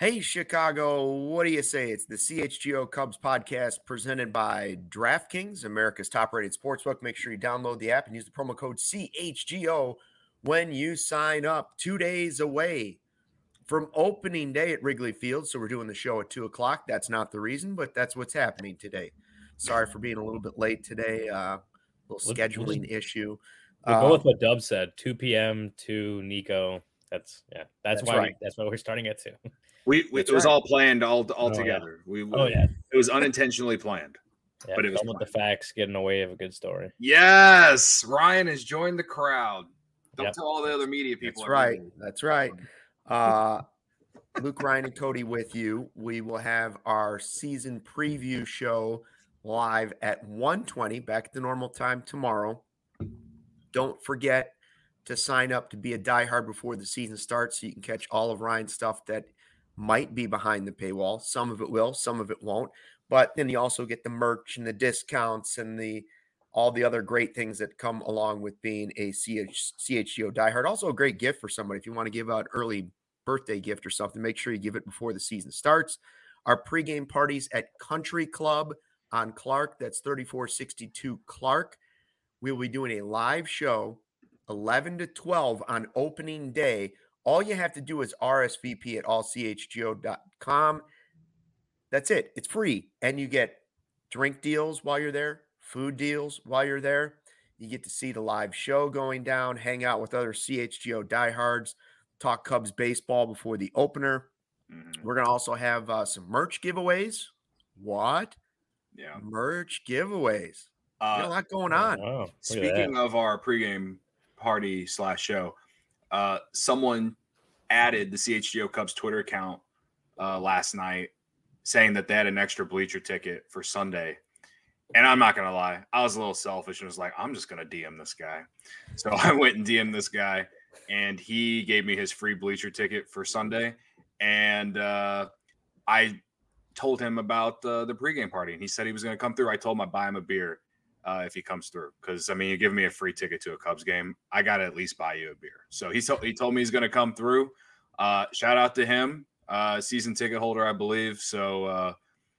Hey, Chicago, what do you say? It's the CHGO Cubs podcast presented by DraftKings, America's top-rated sportsbook. Make sure you download the app and use the promo code CHGO when you sign up. 2 days away from opening day at Wrigley Field, so we're doing the show at 2 o'clock. That's not the reason, but that's what's happening today. Sorry for being a little bit late today. Little scheduling issue. We'll go with what Dub said, 2 p.m. to Nico. That's why right. That's why we're starting at 2. It was all planned all together. Yeah. It was unintentionally planned. Yeah, but it was with the facts getting away of a good story. Yes, Ryan has joined the crowd. Don't tell all the other media people. That's right. Luke, Ryan, and Cody with you. We will have our season preview show live at 1:20, back at the normal time tomorrow. Don't forget to sign up to be a diehard before the season starts so you can catch all of Ryan's stuff that might be behind the paywall. Some of it will, some of it won't. But then you also get the merch and the discounts and all the other great things that come along with being a CHGO diehard. Also a great gift for somebody. If you want to give out early birthday gift or something, make sure you give it before the season starts. Our pregame parties at Country Club on Clark. That's 3462 Clark. We will be doing a live show 11 to 12 on opening day. All you have to do is RSVP at allchgo.com. That's it. It's free. And you get drink deals while you're there, food deals while you're there. You get to see the live show going down, hang out with other CHGO diehards, talk Cubs baseball before the opener. Mm-hmm. We're going to also have some merch giveaways. What? Yeah. Merch giveaways. A lot going on. Wow. Speaking of our pregame party / show, someone added the CHGO Cubs Twitter account last night saying that they had an extra bleacher ticket for Sunday. And I'm not going to lie, I was a little selfish and was like, I'm just going to DM this guy. So I went and DM'd this guy, and he gave me his free bleacher ticket for Sunday. And I told him about the pregame party, and he said he was going to come through. I told him I'd buy him a beer if he comes through, because you give me a free ticket to a Cubs game, I got to at least buy you a beer. So he told me he's going to come through. Shout out to him, season ticket holder, I believe. So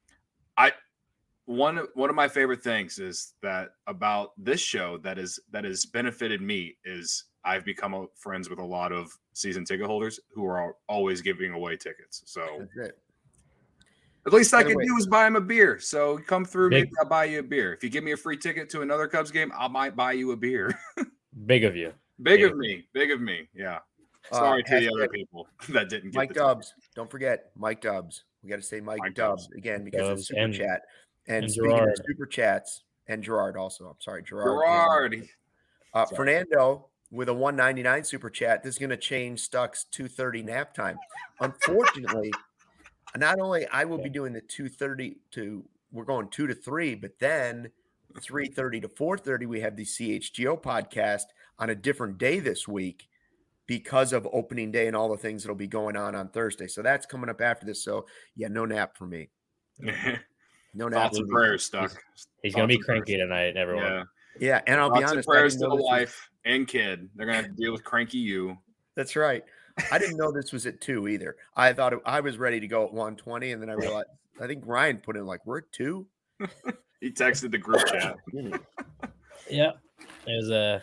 one of my favorite things is that about this show that has benefited me is I've become friends with a lot of season ticket holders who are always giving away tickets. So at least I can do is buy him a beer. So come through, maybe I'll buy you a beer. If you give me a free ticket to another Cubs game, I might buy you a beer. Big of you. Big of me. Yeah. Sorry to the other people that didn't get Mike Dubs. Don't forget Mike Dubs. We got to say Mike Dubs again because of the super chat. And speaking Gerard. of super chats, and Gerard also. I'm sorry, Gerard. Fernando with a $1.99 super chat. This is going to change Stuck's 2:30 nap time. Unfortunately, not only I will be doing the 2:30 to we're going 2 to 3, but then 3:30 to 4:30 we have the CHGO podcast on a different day this week because of opening day and all the things that'll be going on Thursday. So that's coming up after this. So yeah, no nap for me. No nap. Thoughts and prayers, Stuck. He's going to be cranky tonight, everyone. Yeah, and I'll be honest. Prayers to the wife and kid. They're going to have to deal with cranky you. That's right. I didn't know this was at 2 either. I thought I was ready to go at 1:20, and then I realized I think Ryan put in we're at 2. He texted the group chat. Yeah, it was a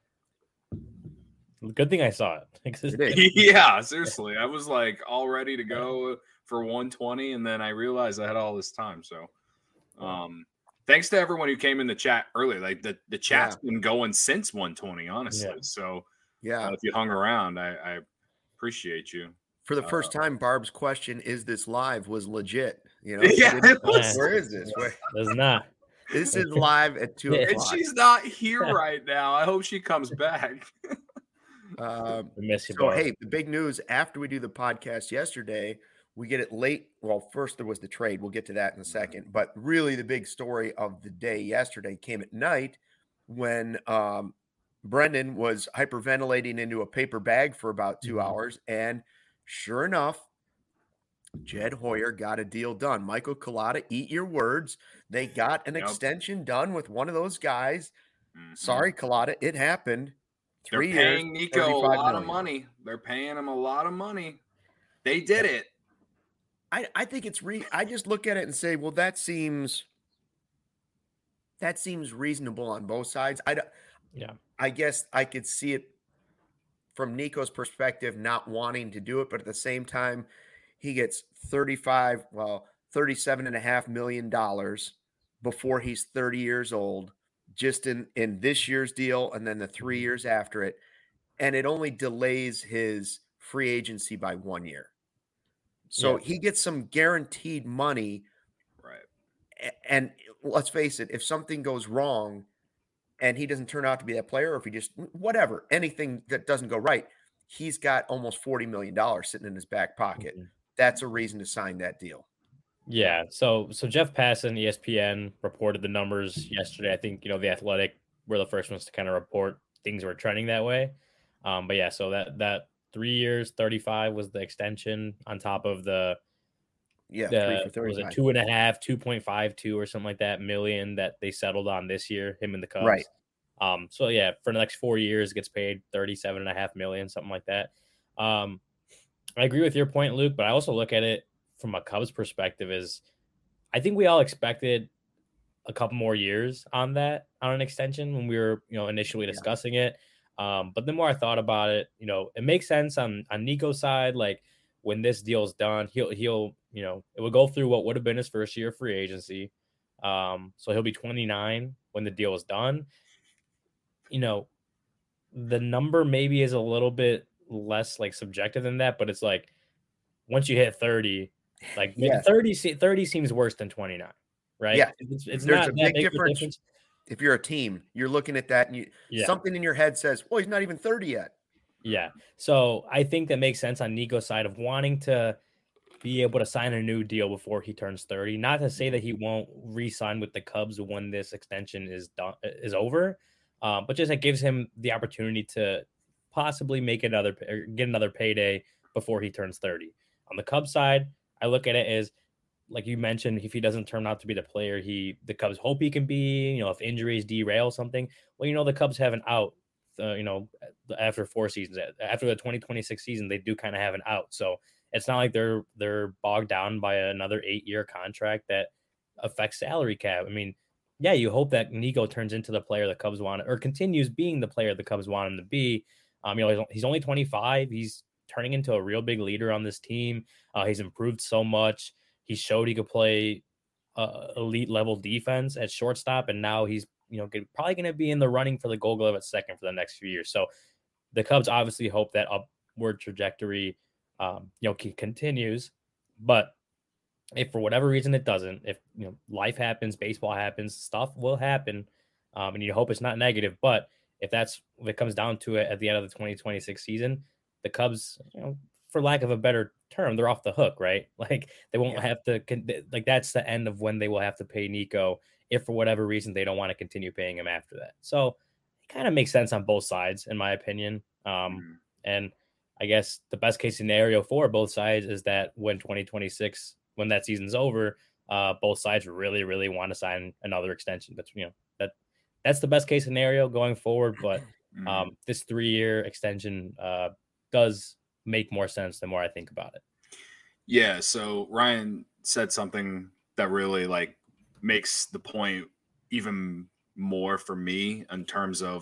good thing I saw it. Yeah, seriously, I was all ready to go for 1:20, and then I realized I had all this time. So, thanks to everyone who came in the chat early. The chat's been going since 1:20, honestly. Yeah. So, if you hung around, I appreciate you. For the first time, Barb's question, "Is this live?" was legit. Yeah, it was. Where is this? It's not. This is live at 2 o'clock. And she's not here right now. I hope she comes back. Miss you, so, hey, the big news after we do the podcast yesterday, we get it late. Well, first there was the trade. We'll get to that in a second. But really the big story of the day yesterday came at night when Brendan was hyperventilating into a paper bag for about 2 hours. And sure enough, Jed Hoyer got a deal done. Michael Collada, eat your words. They got an extension done with one of those guys. Mm-hmm. Sorry, Collada, it happened. They're paying Nico a lot of money. They're paying him a lot of money. They did it. I think it's I just look at it and say, well, that seems reasonable on both sides. Yeah. I guess I could see it from Nico's perspective, not wanting to do it, but at the same time, he gets $37.5 million before he's 30 years old, just in this year's deal, and then the 3 years after it, and it only delays his free agency by 1 year. So he gets some guaranteed money, Right. and let's face it, if something goes wrong and he doesn't turn out to be that player, or if he just whatever, anything that doesn't go right, he's got almost $40 million sitting in his back pocket. Mm-hmm. That's a reason to sign that deal. Yeah. So Jeff Passan, ESPN, reported the numbers yesterday. I think, the Athletic were the first ones to kind of report things were trending that way. But yeah, so that 3 years, 35 was the extension on top of the 3 for 35. was it 2.5, 2.52 or something like that million that they settled on this year, him and the Cubs. Right. So yeah, for the next 4 years, gets paid $37.5 million, something like that. I agree with your point, Luke, but I also look at it from a Cubs perspective is I think we all expected a couple more years on an extension when we were, initially discussing it. But the more I thought about it, it makes sense on Nico's side. Like when this deal's done, he'll, it would go through what would have been his first year of free agency. So he'll be 29 when the deal is done. The number maybe is a little bit less like subjective than that, but it's like once you hit 30, like 30 seems worse than 29, right? Yeah. It's There's not a big difference. If you're a team, you're looking at that and something in your head says, well, he's not even 30 yet. Yeah. So I think that makes sense on Nico's side of wanting to be able to sign a new deal before he turns 30. Not to say that he won't re-sign with the Cubs when this extension is over, but just it gives him the opportunity to possibly get another payday before he turns 30. On the Cubs side, I look at it as, like you mentioned, if he doesn't turn out to be the player the Cubs hope he can be, if injuries derail something, well, the Cubs have an out, after 4 seasons. After the 2026 season, they do kind of have an out. So it's not like they're bogged down by another 8-year contract that affects salary cap. I mean, yeah, you hope that Nico turns into the player the Cubs want, or continues being the player the Cubs want him to be. He's only 25. He's turning into a real big leader on this team. He's improved so much. He showed he could play elite level defense at shortstop, and now he's probably going to be in the running for the Gold Glove at second for the next few years. So the Cubs obviously hope that upward trajectory continues. But if for whatever reason it doesn't, if life happens, baseball happens, stuff will happen, and you hope it's not negative. But if it comes down to it at the end of the 2026 season, the Cubs, for lack of a better term, they're off the hook, right? Like they won't have to, like that's the end of when they will have to pay Nico if for whatever reason they don't want to continue paying him after that. So it kind of makes sense on both sides, in my opinion. And I guess the best case scenario for both sides is that when that season's over, both sides really, really want to sign another extension. That's the best case scenario going forward. But this 3-year extension does make more sense the more I think about it. Yeah. So Ryan said something that really makes the point even more for me in terms of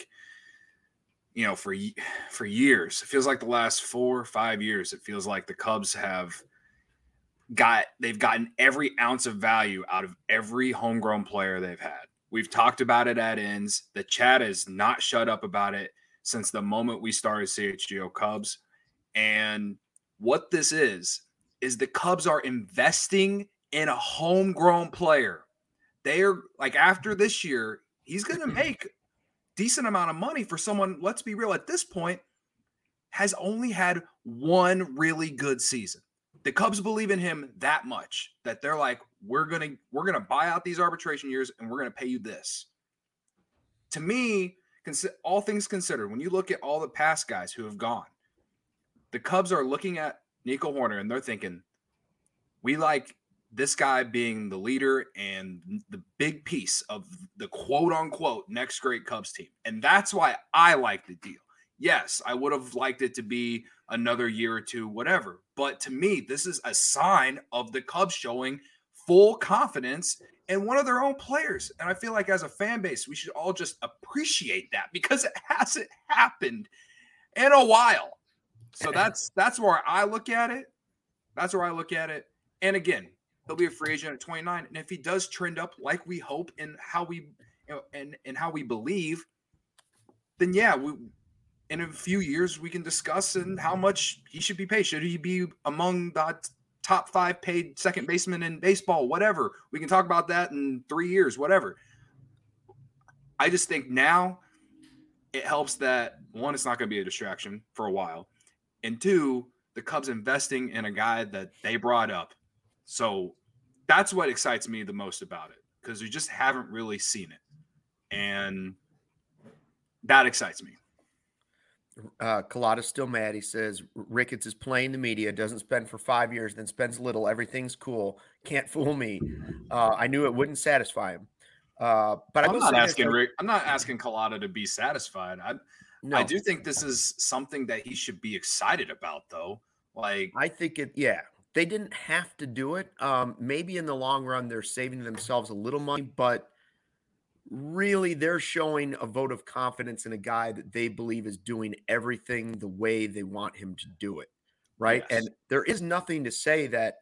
for years, it feels like the last 4 or 5 years, it feels like the Cubs they've gotten every ounce of value out of every homegrown player they've had. We've talked about it at ends. The chat has not shut up about it since the moment we started CHGO Cubs. And what this is the Cubs are investing in a homegrown player. They are after this year, he's going to make decent amount of money for someone, let's be real, at this point, has only had one really good season. The Cubs believe in him that much that they're like, we're gonna buy out these arbitration years and we're gonna pay you this. To me, all things considered, when you look at all the past guys who have gone, the Cubs are looking at Nico Hoerner and they're thinking, we like this guy being the leader and the big piece of the quote unquote next great Cubs team. And that's why I like the deal. Yes, I would have liked it to be another year or two, whatever. But to me, this is a sign of the Cubs showing full confidence in one of their own players. And I feel like as a fan base, we should all just appreciate that because it hasn't happened in a while. So that's where I look at it. That's where I look at it. And again, he'll be a free agent at 29. And if he does trend up like we hope and how we and how we believe, then yeah, in a few years we can discuss and how much he should be paid. Should he be among the top 5 paid second baseman in baseball? Whatever. We can talk about that in 3 years, whatever. I just think now it helps that, one, it's not going to be a distraction for a while. And two, the Cubs investing in a guy that they brought up. So that's what excites me the most about it, because we just haven't really seen it. And that excites me. Collada's still mad. He says Ricketts is playing the media, doesn't spend for 5 years, then spends little. Everything's cool. Can't fool me. I knew it wouldn't satisfy him. But I'm not asking Collada to be satisfied. I do think this is something that he should be excited about, though. Like, I think they didn't have to do it. Maybe in the long run, they're saving themselves a little money, but really they're showing a vote of confidence in a guy that they believe is doing everything the way they want him to do it. Right. Yes. And there is nothing to say that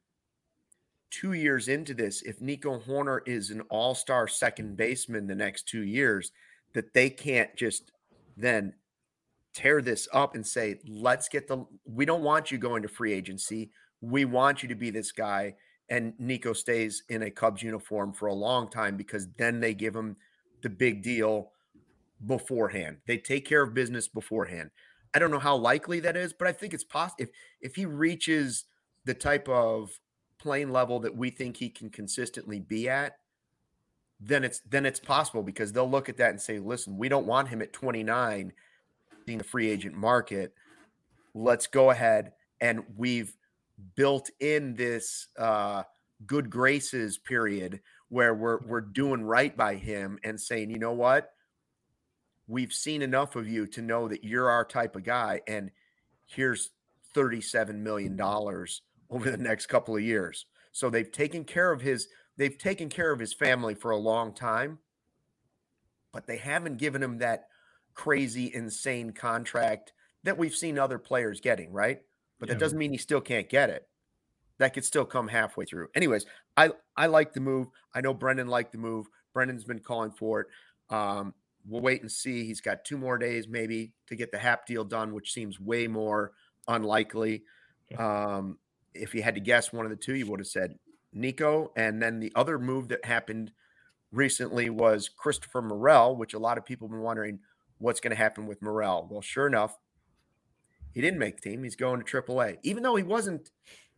2 years into this, if Nico Hoerner is an all-star second baseman the next 2 years, that they can't just then tear this up and say, we don't want you going to free agency. We want you to be this guy. And Nico stays in a Cubs uniform for a long time, because then they give him the big deal beforehand. They take care of business beforehand. I don't know how likely that is, but I think it's possible. If he reaches the type of playing level that we think he can consistently be at, then it's possible, because they'll look at that and say, listen, we don't want him at 29 in the free agent market. Let's go ahead, and we've built in this good graces period where we're doing right by him and saying, you know what, we've seen enough of you to know that you're our type of guy, and here's $37 million over the next couple of years. So they've taken care of his family for a long time, but they haven't given him that crazy, insane contract that we've seen other players getting, right? But that doesn't mean he still can't get it. That could still come halfway through. Anyways, I like the move. I know Brendan liked the move. Brendan's been calling for it. We'll wait and see. He's got 2 more days maybe to get the Hap deal done, which seems way more unlikely. If you had to guess one of the two, you would have said Nico. And then the other move that happened recently was Christopher Morel, which a lot of people have been wondering what's going to happen with Morel. Well, sure enough, he didn't make the team. He's going to AAA. Even though he wasn't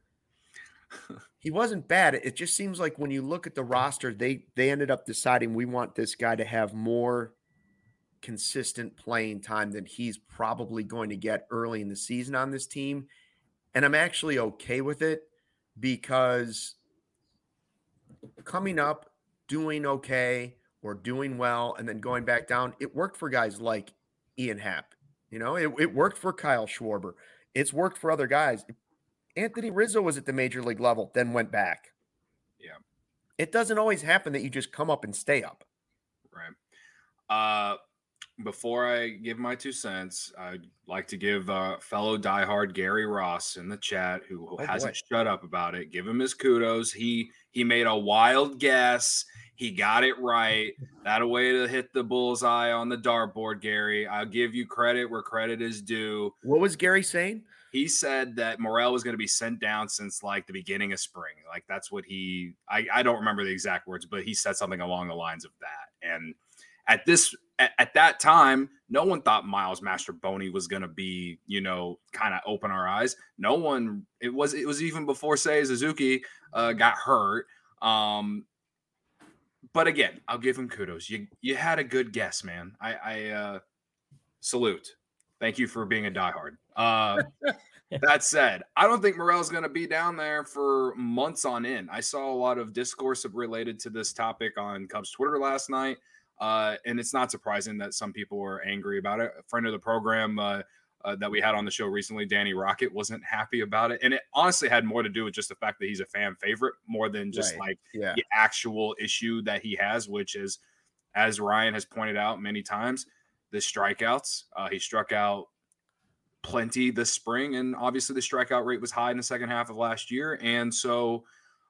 bad, it just seems like when you look at the roster, they ended up deciding we want this guy to have more consistent playing time than he's probably going to get early in the season on this team. And I'm actually okay with it, because coming up, doing okay or doing well, and then going back down, it worked for guys like Ian Happ. You know, it worked for Kyle Schwarber. It's worked for other guys. Anthony Rizzo was at the major league level, then went back. Yeah. It doesn't always happen that you just come up and stay up. Right. Before I give my 2 cents, I'd like to give fellow diehard Gary Ross in the chat, who hasn't shut up about it. Give him his kudos. He made a wild guess. He got it right. That a way to hit the bullseye on the dartboard, Gary. I'll give you credit where credit is due. What was Gary saying? He said that Morel was going to be sent down since like the beginning of spring. Like that's what I don't remember the exact words, but he said something along the lines of that. And at that time, no one thought Miles Mastrobuoni was going to be, kind of open our eyes. No one, it was even before Seiya Suzuki got hurt. But again, I'll give him kudos. You had a good guess, man. I salute. Thank you for being a diehard. That said, I don't think Morel's going to be down there for months on end. I saw a lot of discourse related to this topic on Cubs Twitter last night. And it's not surprising that some people were angry about it. A friend of the program that we had on the show recently, Danny Rocket, wasn't happy about it. And it honestly had more to do with just the fact that he's a fan favorite more than just the actual issue that he has, which is, as Ryan has pointed out many times, the strikeouts. He struck out plenty this spring, and obviously the strikeout rate was high in the second half of last year. And so,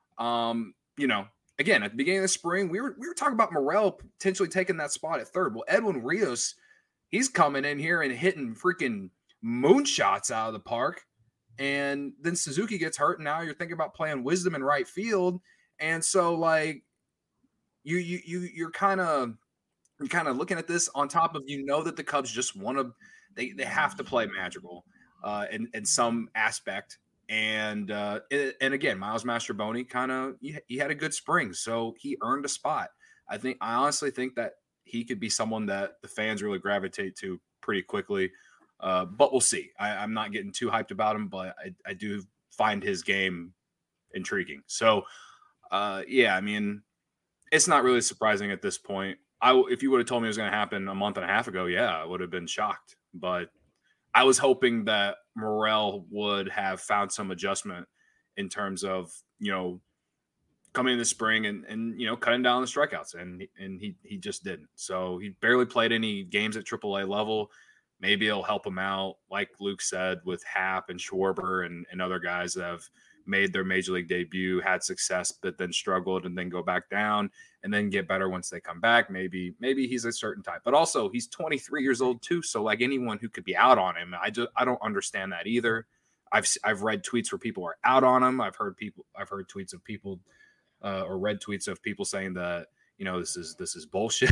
again, at the beginning of the spring, we were talking about Morel potentially taking that spot at third. Well, Edwin Rios, he's coming in here and hitting freaking moonshots out of the park. And then Suzuki gets hurt, and now you're thinking about playing Wisdom in right field. And so, like, you're kind of looking at this on top of, that the Cubs just want to, they have to play magical in some aspect. And again, Miles Mastrobuoni he had a good spring, so he earned a spot. I honestly think that he could be someone that the fans really gravitate to pretty quickly. But we'll see. I'm not getting too hyped about him, but I do find his game intriguing. So, I mean, it's not really surprising at this point. If you would have told me it was going to happen a month and a half ago, I would have been shocked. But I was hoping that Morel would have found some adjustment in terms of, coming in the spring and cutting down the strikeouts. And he just didn't. So he barely played any games at AAA level. Maybe it'll help him out, like Luke said, with Happ and Schwarber and other guys that have made their major league debut, had success, but then struggled and then go back down and then get better once they come back. Maybe he's a certain type, but also he's 23 years old too. So like anyone who could be out on him, I don't understand that either. I've read tweets where people are out on him. I've heard tweets of people or read tweets of people saying that, this is bullshit.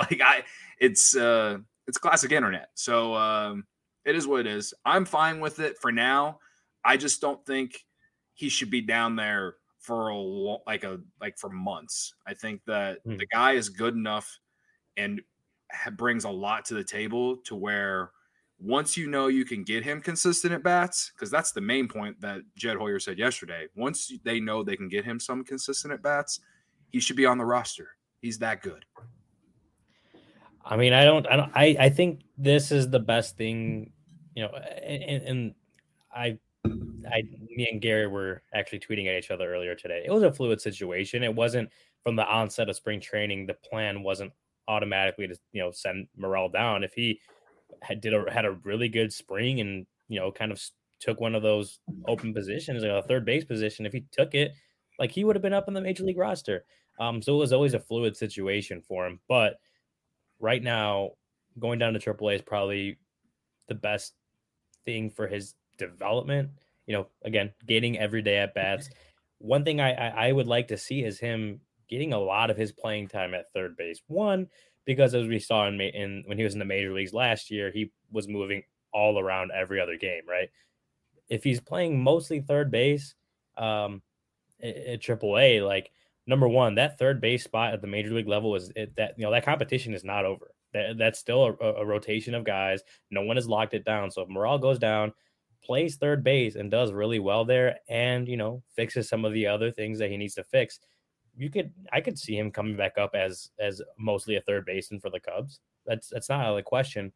It's classic internet. So it is what it is. I'm fine with it for now. I just don't think he should be down there for for months. I think that the guy is good enough and brings a lot to the table to where once you can get him consistent at bats, because that's the main point that Jed Hoyer said yesterday. Once they know they can get him some consistent at bats, he should be on the roster. He's that good. I mean, I think this is the best thing, and me and Gary were actually tweeting at each other earlier today. It was a fluid situation. It wasn't from the onset of spring training. The plan wasn't automatically to, send Morel down. If he had a really good spring and, kind of took one of those open positions, a third base position, if he took it, like he would have been up in the major league roster. So it was always a fluid situation for him. But right now, going down to AAA is probably the best thing for his development. Again, getting everyday at bats. One thing I would like to see is him getting a lot of his playing time at third base. One, because as we saw when he was in the major leagues last year, he was moving all around every other game, right? If he's playing mostly third base at AAA, like, number one, that third base spot at the major league level that competition is not over. That's still a rotation of guys. No one has locked it down. So if Morel goes down, plays third base and does really well there, and fixes some of the other things that he needs to fix, I could see him coming back up as mostly a third baseman for the Cubs. That's not out of the question.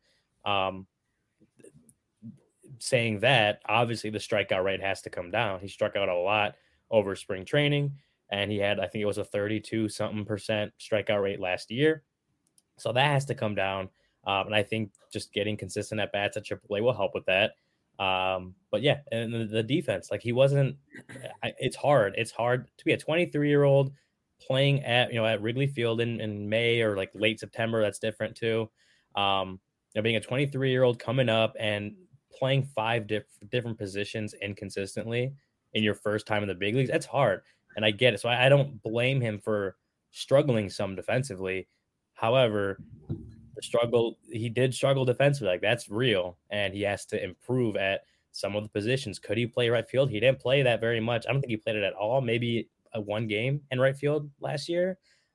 Saying that, obviously the strikeout rate has to come down. He struck out a lot over spring training, and he had, I think it was a 32-something% strikeout rate last year. So that has to come down. And I think just getting consistent at bats at AAA will help with that. But yeah, and the defense, like, he wasn't, it's hard to be a 23-year-old playing at Wrigley Field in May or like late September. That's different too. Being a 23-year-old coming up and playing 5 different positions inconsistently in your first time in the big leagues, that's hard. And I get it. So I don't blame him for struggling some defensively. However, he did struggle defensively. Like, that's real. And he has to improve at some of the positions. Could he play right field? He didn't play that very much. I don't think he played it at all. Maybe one game in right field last year.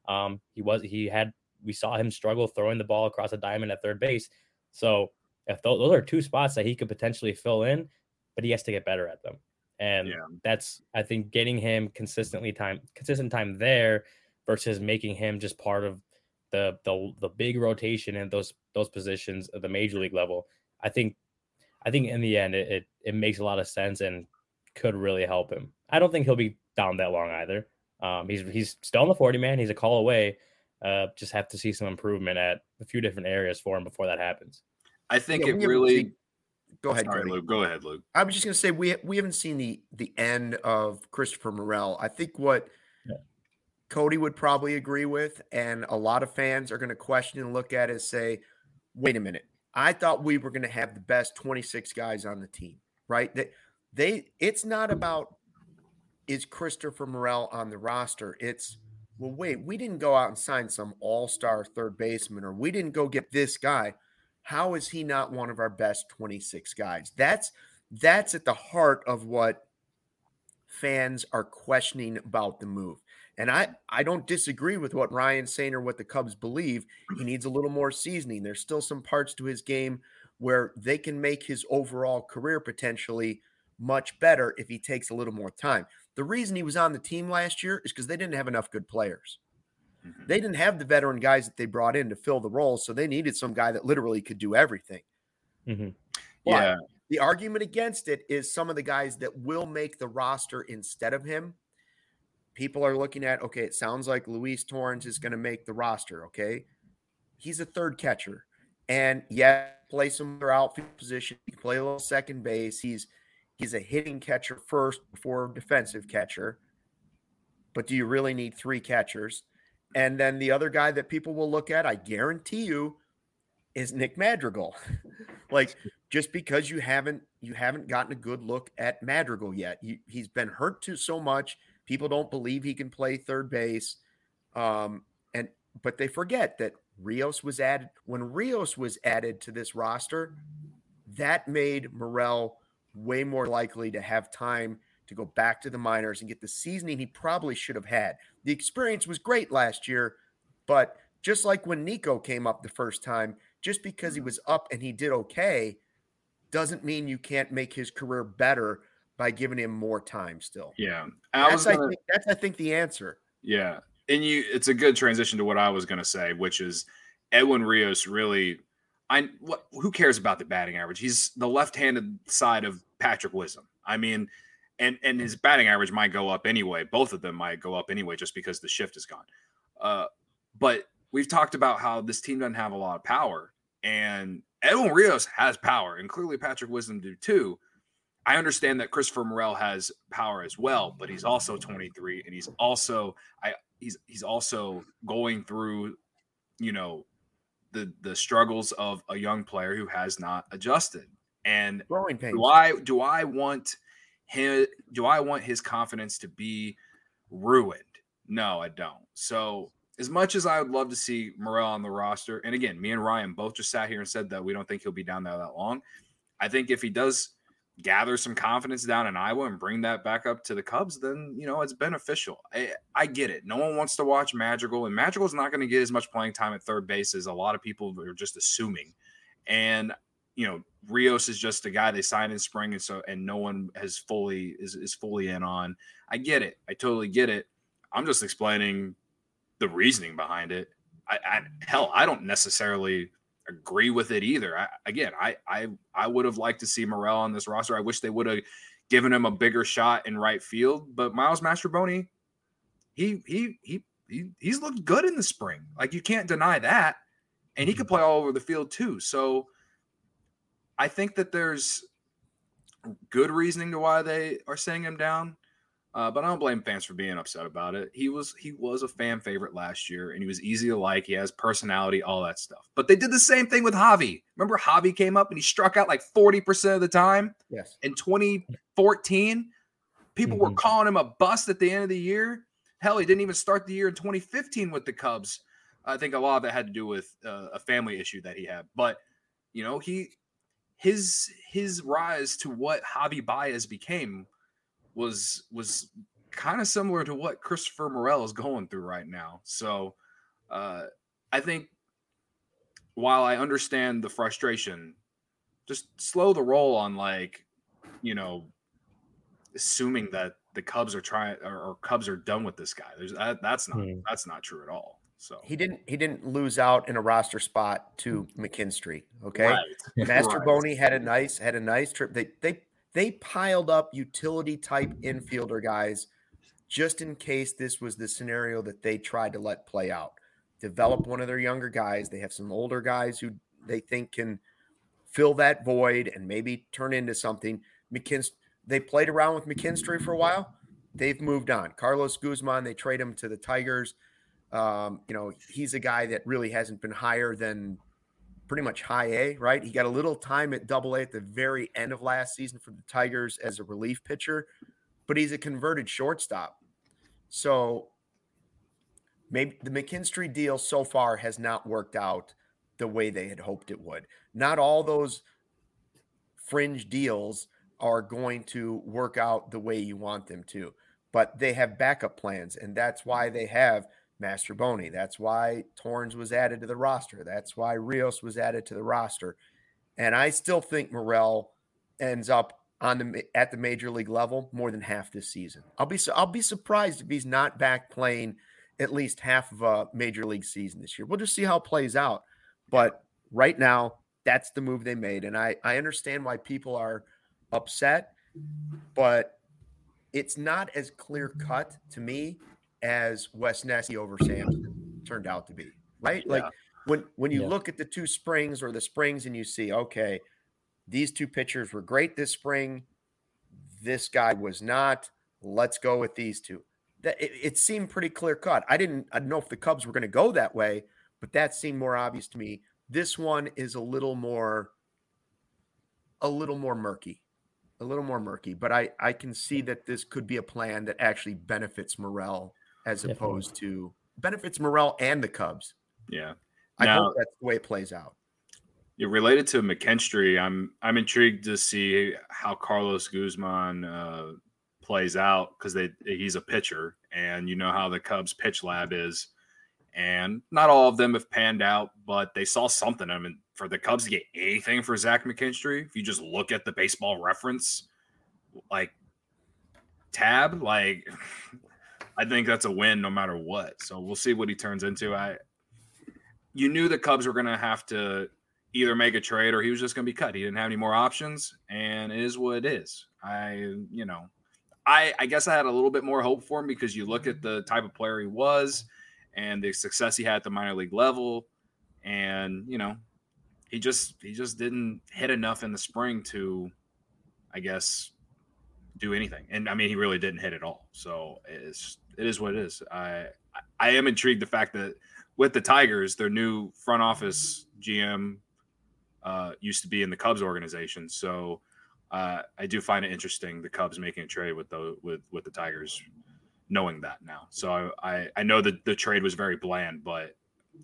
We saw him struggle throwing the ball across a diamond at third base. So if those are 2 spots that he could potentially fill in, but he has to get better at them. And that's, I think, getting him consistent time there versus making him just part of the big rotation in those positions at the major league level, I think in the end it makes a lot of sense and could really help him. I don't think he'll be down that long either. He's still in the 40 man. He's a call away. Just have to see some improvement at a few different areas for him before that happens. I think it really. Go ahead, sorry, Luke. Go ahead, Luke. I was just going to say we haven't seen the end of Christopher Morel. I think what Cody would probably agree with, and a lot of fans are going to question and look at it and say, "Wait a minute! I thought we were going to have the best 26 guys on the team, right? It's not about is Christopher Morel on the roster. It's well, wait, we didn't go out and sign some all-star third baseman, or we didn't go get this guy. How is he not one of our best 26 guys?" That's at the heart of what fans are questioning about the move. And I don't disagree with what Ryan's saying or what the Cubs believe. He needs a little more seasoning. There's still some parts to his game where they can make his overall career potentially much better if he takes a little more time. The reason he was on the team last year is because they didn't have enough good players. They didn't have the veteran guys that they brought in to fill the roles, so they needed some guy that literally could do everything. Yeah. The argument against it is some of the guys that will make the roster instead of him. People are looking at, okay, it sounds like Luis Torrens is going to make the roster, okay? He's a third catcher. And play some other outfield position. He can play a little second base. He's a hitting catcher first before defensive catcher. But do you really need three catchers? And then the other guy that people will look at, I guarantee you, is Nick Madrigal. Like, just because you haven't gotten a good look at Madrigal yet. He's been hurt so much. People don't believe he can play third base. But they forget that Rios was added. When Rios was added to this roster, that made Morel way more likely to have time to go back to the minors and get the seasoning he probably should have had. The experience was great last year, but just like when Nico came up the first time, just because he was up and he did okay doesn't mean you can't make his career better by giving him more time still. Yeah. I think the answer. Yeah. And it's a good transition to what I was going to say, which is Edwin Rios really who cares about the batting average? He's the left-handed side of Patrick Wisdom. I mean, and his batting average might go up anyway. Both of them might go up anyway just because the shift is gone. But we've talked about how this team doesn't have a lot of power, and Edwin Rios has power, and clearly Patrick Wisdom do too. I understand that Christopher Morel has power as well, but he's also 23, and he's also going through, the struggles of a young player who has not adjusted. And growing pains. Do I want his confidence to be ruined? No, I don't. So as much as I would love to see Morel on the roster, and again, me and Ryan both just sat here and said that we don't think he'll be down there that long. I think if he does gather some confidence down in Iowa and bring that back up to the Cubs, then, it's beneficial. I get it. No one wants to watch Madrigal, and Madrigal's not going to get as much playing time at third base as a lot of people are just assuming. And, Rios is just a guy they signed in spring, and no one is fully in on. I get it. I totally get it. I'm just explaining the reasoning behind it. I don't necessarily agree with it either. I would have liked to see Morel on this roster. I wish they would have given him a bigger shot in right field. But Miles Mastrobuoni, he's looked good in the spring. Like, you can't deny that, and he could play all over the field too. So I think that there's good reasoning to why they are sending him down. But I don't blame fans for being upset about it. He was a fan favorite last year, and he was easy to like. He has personality, all that stuff. But they did the same thing with Javi. Remember, Javi came up and he struck out like 40% of the time. Yes. In 2014, people were calling him a bust at the end of the year. Hell, he didn't even start the year in 2015 with the Cubs. I think a lot of that had to do with a family issue that he had. But his rise to what Javi Baez became was kind of similar to what Christopher Morel is going through right now. So I think while I understand the frustration, just slow the roll on assuming that the Cubs are trying or Cubs are done with this guy. That's not true at all. So he didn't lose out in a roster spot to McKinstry. Okay. right. Master Right. Boney had a nice trip. They piled up utility type infielder guys just in case this was the scenario that they tried to let play out. Develop one of their younger guys. They have some older guys who they think can fill that void and maybe turn into something. They played around with McKinstry for a while. They've moved on. Carlos Guzman, they trade him to the Tigers. He's a guy that really hasn't been higher than pretty much high A, right? He got a little time at Double A at the very end of last season for the Tigers as a relief pitcher, but he's a converted shortstop. So maybe the McKinstry deal so far has not worked out the way they had hoped it would. Not all those fringe deals are going to work out the way you want them to, but they have backup plans, and that's why they have Master Boney. That's why Torrens was added to the roster. That's why Rios was added to the roster. And I still think Morel ends up at the major league level more than half this season. I'll be surprised if he's not back playing at least half of a major league season this year. We'll just see how it plays out. But right now, that's the move they made. And I understand why people are upset, but it's not as clear cut to me as Wes Nessie over Sampson turned out to be, right? Yeah. Like when you look at the two springs or the springs and you see, okay, these two pitchers were great this spring. This guy was not. Let's go with these two. It seemed pretty clear cut. I didn't know if the Cubs were going to go that way, but that seemed more obvious to me. This one is a little more murky. But I can see that this could be a plan that actually benefits Morel as opposed to benefits Morel and the Cubs. Yeah. I hope that's the way it plays out. Related to McKinstry, I'm intrigued to see how Carlos Guzman plays out because he's a pitcher, and you know how the Cubs pitch lab is, and not all of them have panned out, but they saw something. I mean, for the Cubs to get anything for Zach McKinstry, if you just look at the Baseball Reference tab, I think that's a win no matter what. So we'll see what he turns into. You knew the Cubs were going to have to either make a trade or he was just going to be cut. He didn't have any more options, and it is what it is. I guess I had a little bit more hope for him because you look at the type of player he was and the success he had at the minor league level, and he just didn't hit enough in the spring to, I guess, do anything. And I mean, he really didn't hit at all. So it is what it is. I am intrigued the fact that with the Tigers, their new front office GM used to be in the Cubs organization. So I do find it interesting the Cubs making a trade with the Tigers, knowing that now. So I know that the trade was very bland, but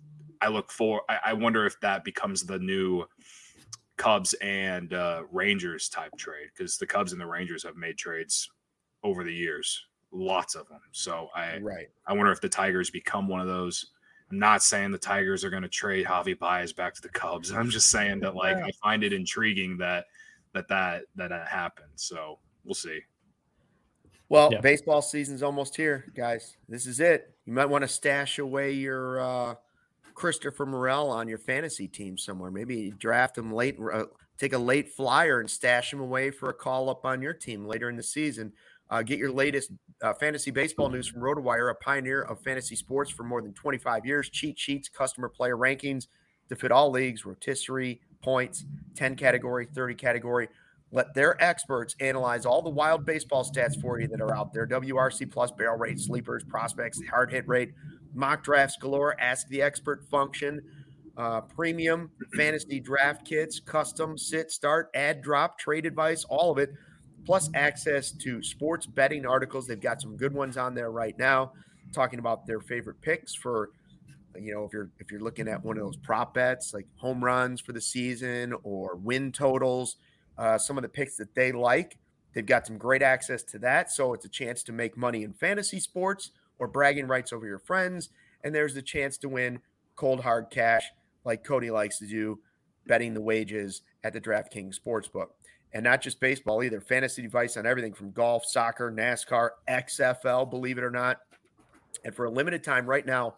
I wonder if that becomes the new Cubs and Rangers type trade, because the Cubs and the Rangers have made trades over the years, lots of them. So I wonder if the Tigers become one of those. I'm not saying the Tigers are going to trade Javi Baez back to the Cubs. I'm just saying that I find it intriguing that happened. So we'll see. Well, baseball season's almost here, guys. This is it. You might want to stash away your Christopher Morel on your fantasy team somewhere. Maybe draft him late, take a late flyer and stash him away for a call up on your team later in the season. Get your latest fantasy baseball news from RotoWire, a pioneer of fantasy sports for more than 25 years. Cheat sheets, customer player rankings to fit all leagues, rotisserie, points, 10 category, 30 category. Let their experts analyze all the wild baseball stats for you that are out there. WRC plus, barrel rate, sleepers, prospects, hard hit rate, mock drafts galore, ask the expert function, premium fantasy draft kits, custom sit, start, add, drop, trade advice, all of it. Plus access to sports betting articles. They've got some good ones on there right now, talking about their favorite picks for, if you're looking at one of those prop bets like home runs for the season or win totals, some of the picks that they like. They've got some great access to that. So it's a chance to make money in fantasy sports or bragging rights over your friends. And there's the chance to win cold hard cash like Cody likes to do, betting the wages at the DraftKings Sportsbook. And not just baseball either. Fantasy advice on everything from golf, soccer, NASCAR, XFL, believe it or not. And for a limited time right now,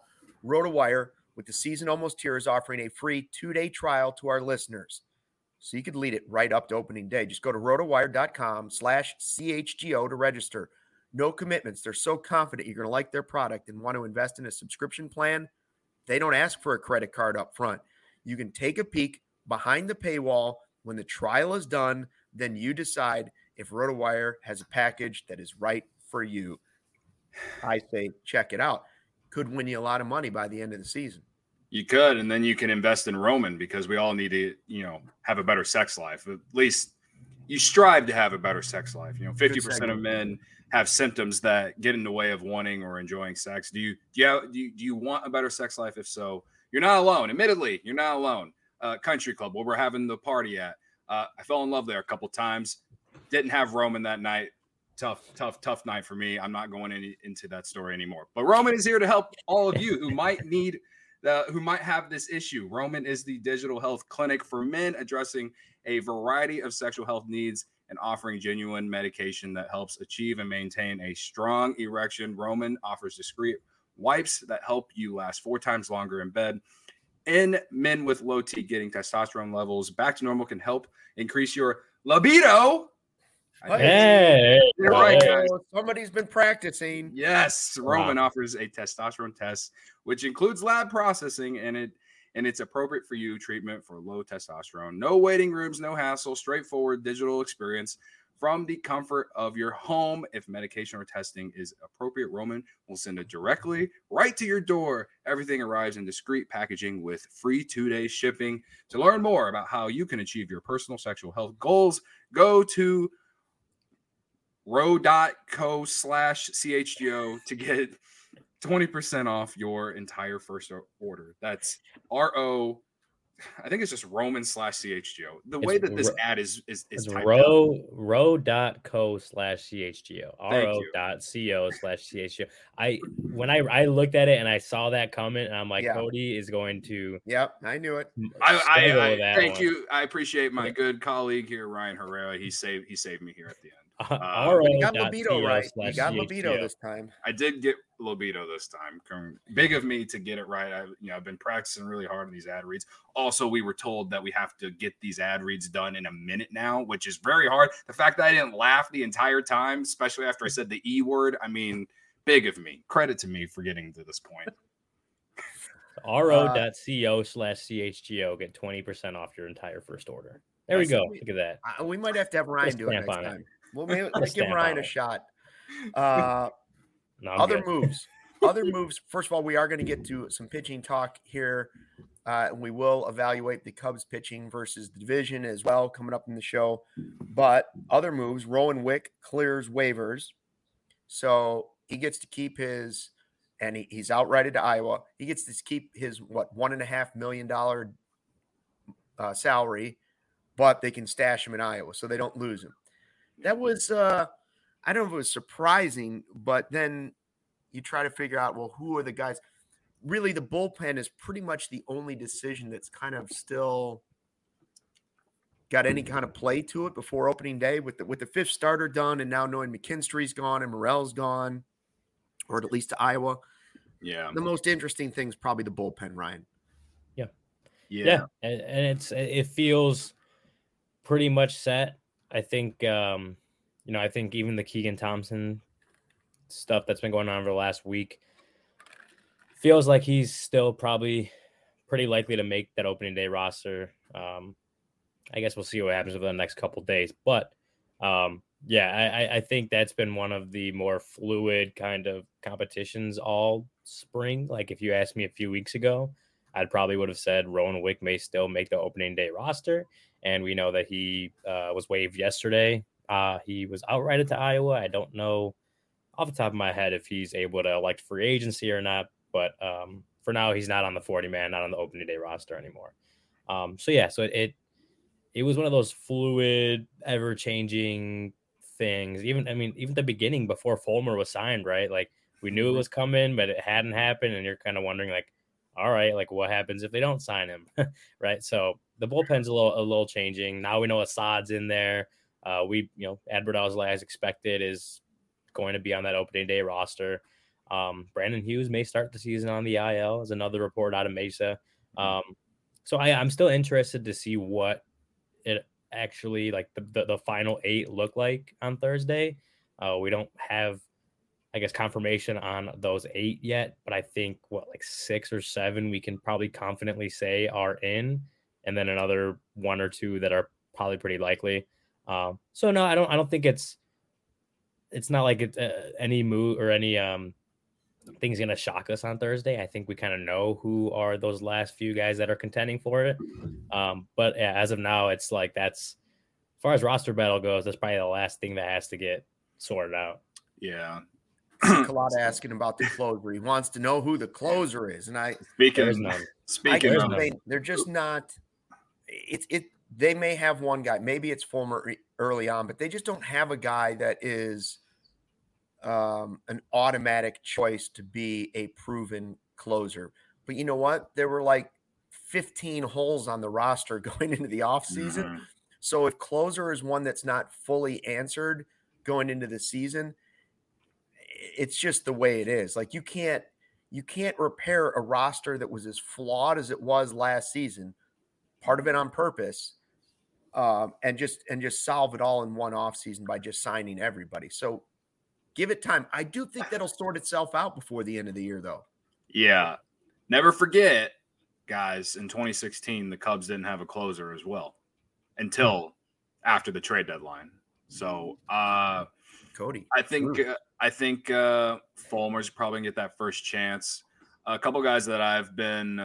RotoWire, with the season almost here, is offering a free 2-day trial to our listeners. So you could lead it right up to opening day. Just go to rotowire.com/CHGO to register. No commitments. They're so confident you're going to like their product and want to invest in a subscription plan. They don't ask for a credit card up front. You can take a peek behind the paywall. When the trial is done, then you decide if RotoWire has a package that is right for you. I say check it out. Could win you a lot of money by the end of the season. You could, and then you can invest in Roman, because we all need to, have a better sex life. At least you strive to have a better sex life. 50% of men have symptoms that get in the way of wanting or enjoying sex. Do you want a better sex life? If so, you're not alone. Admittedly, you're not alone. Country Club, where we're having the party at. I fell in love there a couple times. Didn't have Roman that night. Tough night for me. I'm not going into that story anymore. But Roman is here to help all of you who might have this issue. Roman is the digital health clinic for men, addressing a variety of sexual health needs and offering genuine medication that helps achieve and maintain a strong erection. Roman offers discreet wipes that help you last 4 times longer in bed. In men with low T, getting testosterone levels back to normal can help increase your libido. Hey, right, guys. Somebody's been practicing. Yes, Roman offers a testosterone test, which includes lab processing, and it's appropriate for you treatment for low testosterone. No waiting rooms, no hassle, straightforward digital experience from the comfort of your home. If medication or testing is appropriate, Roman will send it directly right to your door. Everything arrives in discreet packaging with free 2-day shipping. To learn more about how you can achieve your personal sexual health goals, go to ro.co/CHGO to get 20% off your entire first order. That's RO. I think it's just Roman/CHGO. The way that this ad is typed ro.co/CHGO. ro.co/CHGO. When I looked at it and I saw that comment, and I'm like, Cody is going to. Yep, I knew it. I thank you. I appreciate my good colleague here, Ryan Herrera. He saved me here at the end. You got libido right. You got libido this time. I did get libido this time. Big of me to get it right. I've been practicing really hard on these ad reads. Also, we were told that we have to get these ad reads done in a minute now, which is very hard. The fact that I didn't laugh the entire time, especially after I said the E word, big of me. Credit to me for getting to this point. ro.co/CHGO. Get 20% off your entire first order. There we go. Look at that. We might have to have Ryan do it next time. Well, maybe let's give Ryan a shot. Other moves. First of all, we are going to get to some pitching talk here. And we will evaluate the Cubs pitching versus the division as well coming up in the show. But other moves, Rowan Wick clears waivers. So he gets to keep his, and he's outrighted to Iowa. He gets to keep his, $1.5 million salary, but they can stash him in Iowa so they don't lose him. That was, I don't know if it was surprising, but then you try to figure out, well, who are the guys? Really, the bullpen is pretty much the only decision that's kind of still got any kind of play to it before opening day with the fifth starter done, and now knowing McKinstry's gone and Morel's gone, or at least to Iowa. Yeah. The most interesting thing is probably the bullpen, Ryan. Yeah. And it feels pretty much set. I think, I think even the Keegan Thompson stuff that's been going on over the last week feels like he's still probably pretty likely to make that opening day roster. I guess we'll see what happens over the next couple of days. But, I think that's been one of the more fluid kind of competitions all spring. Like if you asked me a few weeks ago, I probably would have said Rowan Wick may still make the opening day roster. And we know that he was waived yesterday. He was outrighted to Iowa. I don't know off the top of my head if he's able to elect free agency or not. But for now, he's not on the 40-man, not on the opening day roster anymore. So it was one of those fluid, ever-changing things. Even the beginning before Fulmer was signed, right? Like we knew it was coming, but it hadn't happened. And you're kind of wondering like, all right, like what happens if they don't sign him? Right. So the bullpen's a little changing. Now we know Assad's in there. Adbert Alzolay, as expected, is going to be on that opening day roster. Brandon Hughes may start the season on the IL, is another report out of Mesa. So I'm still interested to see what it actually like the final 8 look like on Thursday. We don't have, I guess, confirmation on those 8 yet, but I think like 6 or 7 we can probably confidently say are in, and then another 1 or 2 that are probably pretty likely. So no, I don't think it's not like it's any move or any things going to shock us on Thursday. I think we kind of know who are those last few guys that are contending for it. But yeah, as of now, it's like as far as roster battle goes, that's probably the last thing that has to get sorted out. Yeah. Kalata asking about the closer. He wants to know who the closer is. And they're just not. They may have one guy. Maybe it's Fulmer early on, but they just don't have a guy that is an automatic choice to be a proven closer. But you know what? There were like 15 holes on the roster going into the offseason. Mm-hmm. So if closer is one that's not fully answered going into the season, it's just the way it is. Like you can't repair a roster that was as flawed as it was last season, part of it on purpose, and just solve it all in one offseason by just signing everybody. So give it time. I do think that'll sort itself out before the end of the year, though. Yeah. Never forget, guys, in 2016, the Cubs didn't have a closer as well until after the trade deadline. So, Cody, I think Fulmer's probably gonna get that first chance. A couple guys that I've been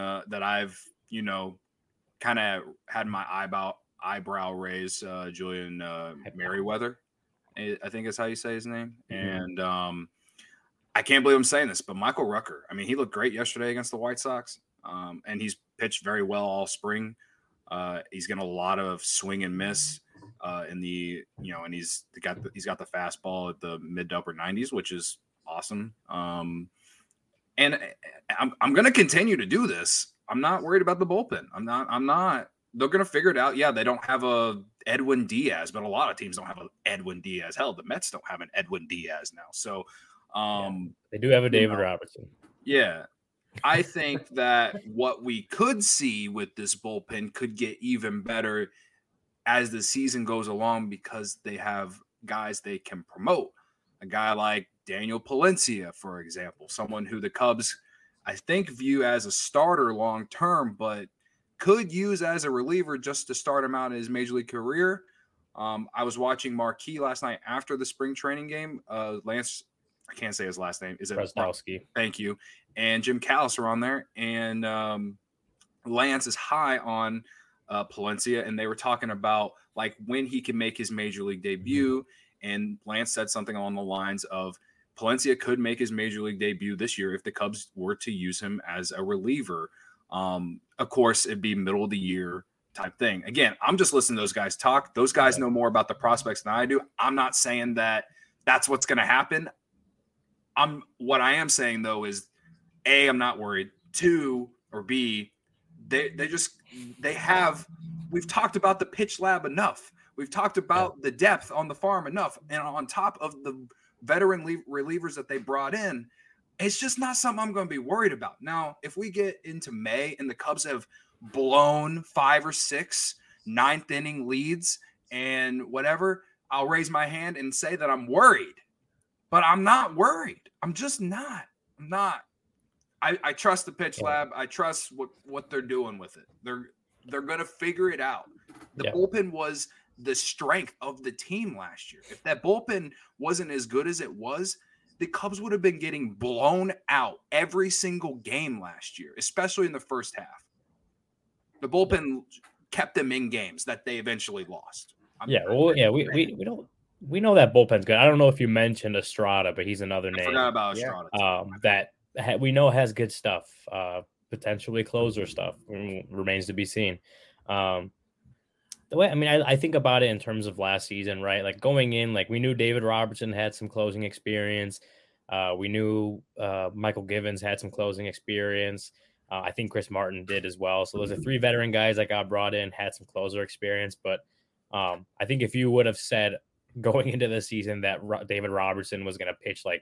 kind of had my eyebrow raised. Julian Merriweather, I think is how you say his name. Mm-hmm. And I can't believe I'm saying this, but Michael Rucker. I mean, he looked great yesterday against the White Sox, and he's pitched very well all spring. He's getting a lot of swing and miss. And he's got the fastball at the mid to upper 90s, which is awesome. And I'm going to continue to do this. I'm not worried about the bullpen. I'm not. They're going to figure it out. Yeah, they don't have a Edwin Diaz, but a lot of teams don't have an Edwin Diaz. Hell, the Mets don't have an Edwin Diaz now. So they do have a David Robertson. Yeah. I think that what we could see with this bullpen could get even better as the season goes along, because they have guys they can promote. A guy like Daniel Palencia, for example, someone who the Cubs, I think, view as a starter long-term, but could use as a reliever just to start him out in his major league career. I was watching Marquee last night after the spring training game. Lance, I can't say his last name. Is it Brzezowski? Thank you. And Jim Callis are on there. And Lance is high on Palencia, and they were talking about like when he can make his major league debut. And Lance said something along the lines of Palencia could make his major league debut this year if the Cubs were to use him as a reliever. Of course, it'd be middle of the year type thing. Again, I'm just listening to those guys talk. Those guys know more about the prospects than I do. I'm not saying that that's what's going to happen. What I am saying though is A, I'm not worried. 2 or B, we've talked about the pitch lab enough. We've talked about the depth on the farm enough. And on top of the veteran relievers that they brought in, it's just not something I'm going to be worried about. Now, if we get into May and the Cubs have blown 5 or 6 ninth inning leads and whatever, I'll raise my hand and say that I'm worried. But I'm not worried. I'm just not. I'm not. I trust the pitch lab. I trust what they're doing with it. They're going to figure it out. The bullpen was the strength of the team last year. If that bullpen wasn't as good as it was, the Cubs would have been getting blown out every single game last year, especially in the first half. The bullpen kept them in games that they eventually lost. We know that bullpen's good. I don't know if you mentioned Estrada, but he's another name. I forgot about Estrada. That we know has good stuff, potentially closer stuff. Remains to be seen. The way, I mean, I think about it in terms of last season, right? Like going in, like we knew David Robertson had some closing experience. We knew Michael Givens had some closing experience. I think Chris Martin did as well. So those are 3 veteran guys that got brought in, had some closer experience. But I think if you would have said going into the season that David Robertson was going to pitch like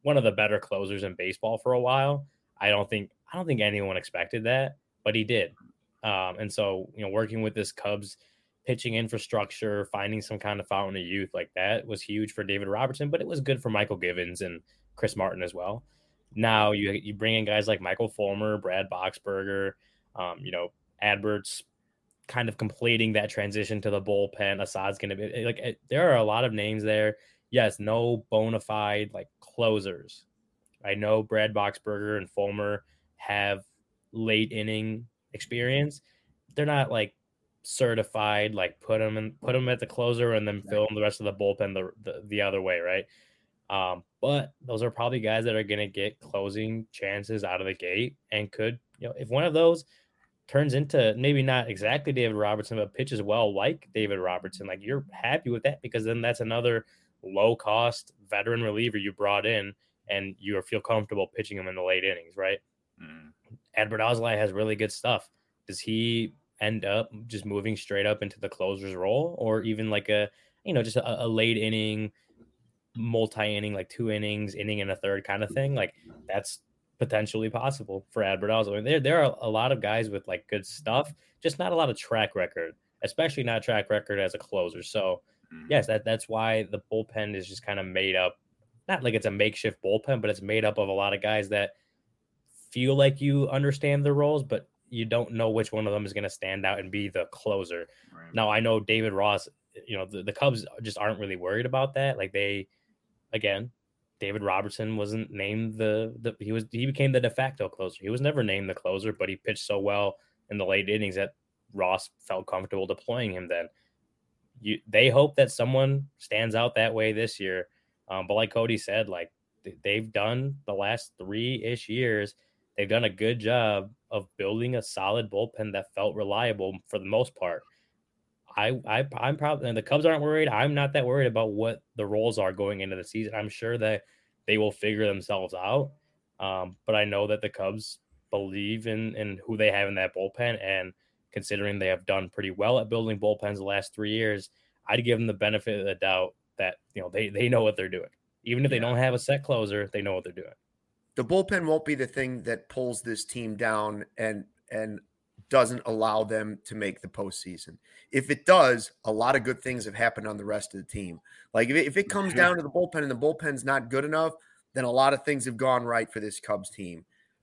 one of the better closers in baseball for a while. I don't think anyone expected that, but he did. And so, working with this Cubs pitching infrastructure, finding some kind of fountain of youth like that was huge for David Robertson, but it was good for Michael Givens and Chris Martin as well. Now you bring in guys like Michael Fulmer, Brad Boxberger, Adbert's kind of completing that transition to the bullpen. Assad's going to be like, there are a lot of names there. Yes, no bona fide like closers. I know Brad Boxberger and Fulmer have late inning experience. They're not like certified, like put them at the closer and then fill them the rest of the bullpen the other way, right? But those are probably guys that are going to get closing chances out of the gate and could, if one of those turns into maybe not exactly David Robertson, but pitches well like David Robertson, like you're happy with that because then that's another low cost veteran reliever you brought in and you feel comfortable pitching him in the late innings, right? Adbert Alzolay has really good stuff. Does he end up just moving straight up into the closer's role, or even like just a late inning, multi-inning, like 2 innings, inning and a third kind of thing? Like that's potentially possible for Adbert Alzolay. There are a lot of guys with like good stuff, just not a lot of track record, especially not track record as a closer. So yes, that's why the bullpen is just kind of made up, not like it's a makeshift bullpen, but it's made up of a lot of guys that feel like you understand their roles, but you don't know which one of them is going to stand out and be the closer. Right. Now, I know David Ross, the Cubs just aren't really worried about that. Like David Robertson wasn't named he became the de facto closer. He was never named the closer, but he pitched so well in the late innings that Ross felt comfortable deploying him then. They hope that someone stands out that way this year. But like Cody said, like they've done the last 3-ish years, they've done a good job of building a solid bullpen that felt reliable for the most part. I'm probably, and the Cubs aren't worried. I'm not that worried about what the roles are going into the season. I'm sure that they will figure themselves out. But I know that the Cubs believe in who they have in that bullpen, and considering they have done pretty well at building bullpens the last 3 years, I'd give them the benefit of the doubt that they know what they're doing. Even if they don't have a set closer, they know what they're doing. The bullpen won't be the thing that pulls this team down and doesn't allow them to make the postseason. If it does, a lot of good things have happened on the rest of the team. Like if it comes down to the bullpen and the bullpen's not good enough, then a lot of things have gone right for this Cubs team.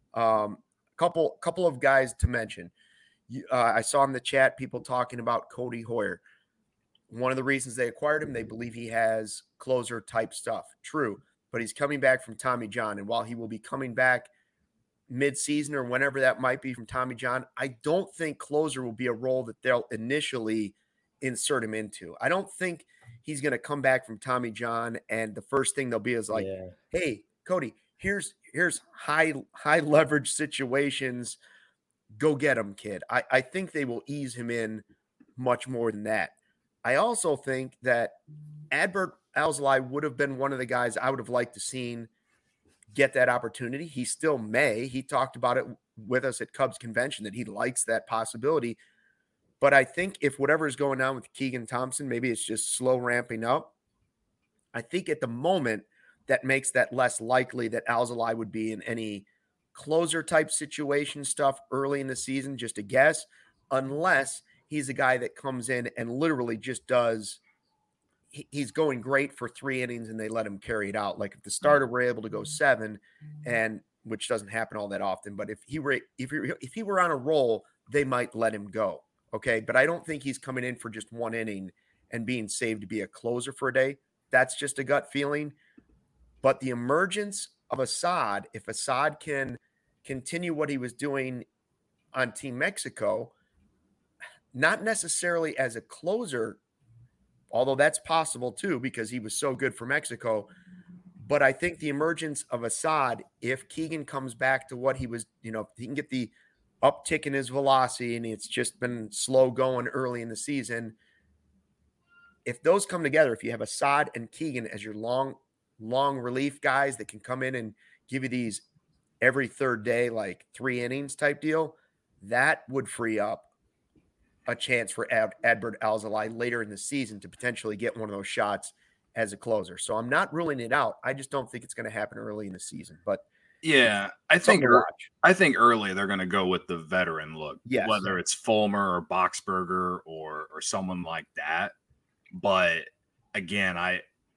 Couple of guys to mention. I saw in the chat people talking about Cody Hoyer. One of the reasons they acquired him, they believe he has closer type stuff. True, but he's coming back from Tommy John. And while he will be coming back mid-season or whenever that might be from Tommy John, I don't think closer will be a role that they'll initially insert him into. I don't think he's going to come back from Tommy John and the first thing they'll be is like, hey, Cody, here's high leverage situations. Go get him, kid. I think they will ease him in much more than that. I also think that Adbert Alzolay would have been one of the guys I would have liked to seen get that opportunity. He still may. He talked about it with us at Cubs convention that he likes that possibility. But I think if whatever is going on with Keegan Thompson, maybe it's just slow ramping up. I think at the moment that makes that less likely that Alzolay would be in any closer type situation stuff early in the season, just a guess, unless he's a guy that comes in and literally just does. He's going great for 3 innings and they let him carry it out. Like if the starter were able to go 7, and which doesn't happen all that often, but if he were on a roll, they might let him go. Okay. But I don't think he's coming in for just 1 inning and being saved to be a closer for a day. That's just a gut feeling. But the emergence of Assad, if Assad can continue what he was doing on Team Mexico, not necessarily as a closer, although that's possible too, because he was so good for Mexico. But I think the emergence of Assad, if Keegan comes back to what he was, if he can get the uptick in his velocity and it's just been slow going early in the season, if those come together, if you have Assad and Keegan as your long relief guys that can come in and give you these every third day, like 3 innings type deal, that would free up a chance for Adbert Alzolay later in the season to potentially get one of those shots as a closer. So I'm not ruling it out. I just don't think it's going to happen early in the season. But yeah, I think early they're going to go with the veteran look, yes, whether it's Fulmer or Boxberger or someone like that. But again, I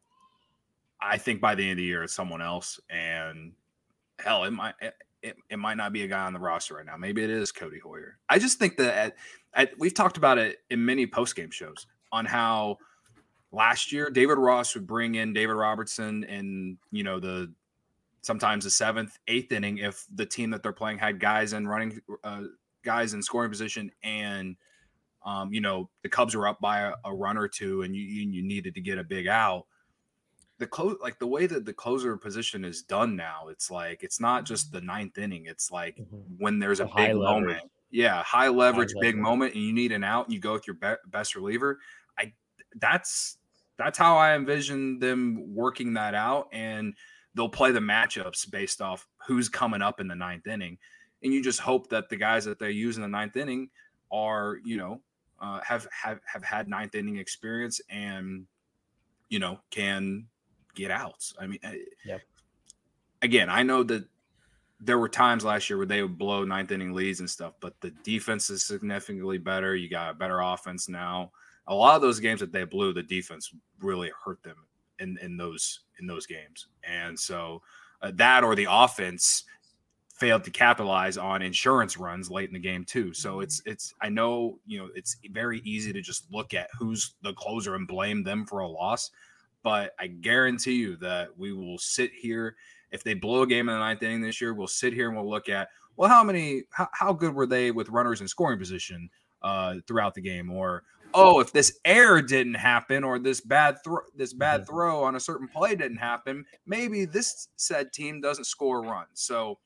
think by the end of the year it's someone else, and hell, it might not be a guy on the roster right now. Maybe it is Cody Hoyer. I just think that we've talked about it in many post-game shows on how last year David Ross would bring in David Robertson in, sometimes the 7th, 8th inning if the team that they're playing had guys in scoring position, and the Cubs were up by a run or two and you needed to get a big out. The way that the closer position is done now, it's like it's not just the 9th inning. It's like when there's a big moment, high leverage, big moment, and you need an out, and you go with your best reliever. That's how I envision them working that out, and they'll play the matchups based off who's coming up in the 9th inning, and you just hope that the guys that they use in the 9th inning are have had 9th inning experience and can get outs. I mean, again, I know that there were times last year where they would blow 9th inning leads and stuff, but the defense is significantly better. You got a better offense now. A lot of those games that they blew, the defense really hurt them in those games. And so that or the offense failed to capitalize on insurance runs late in the game too. So it's I know, it's very easy to just look at who's the closer and blame them for a loss. But I guarantee you that we will sit here. If they blow a game in the 9th inning this year, we'll sit here and we'll look at, well, how good were they with runners in scoring position throughout the game? Or, if this error didn't happen, or this bad throw on a certain play didn't happen, maybe this said team doesn't score a run. So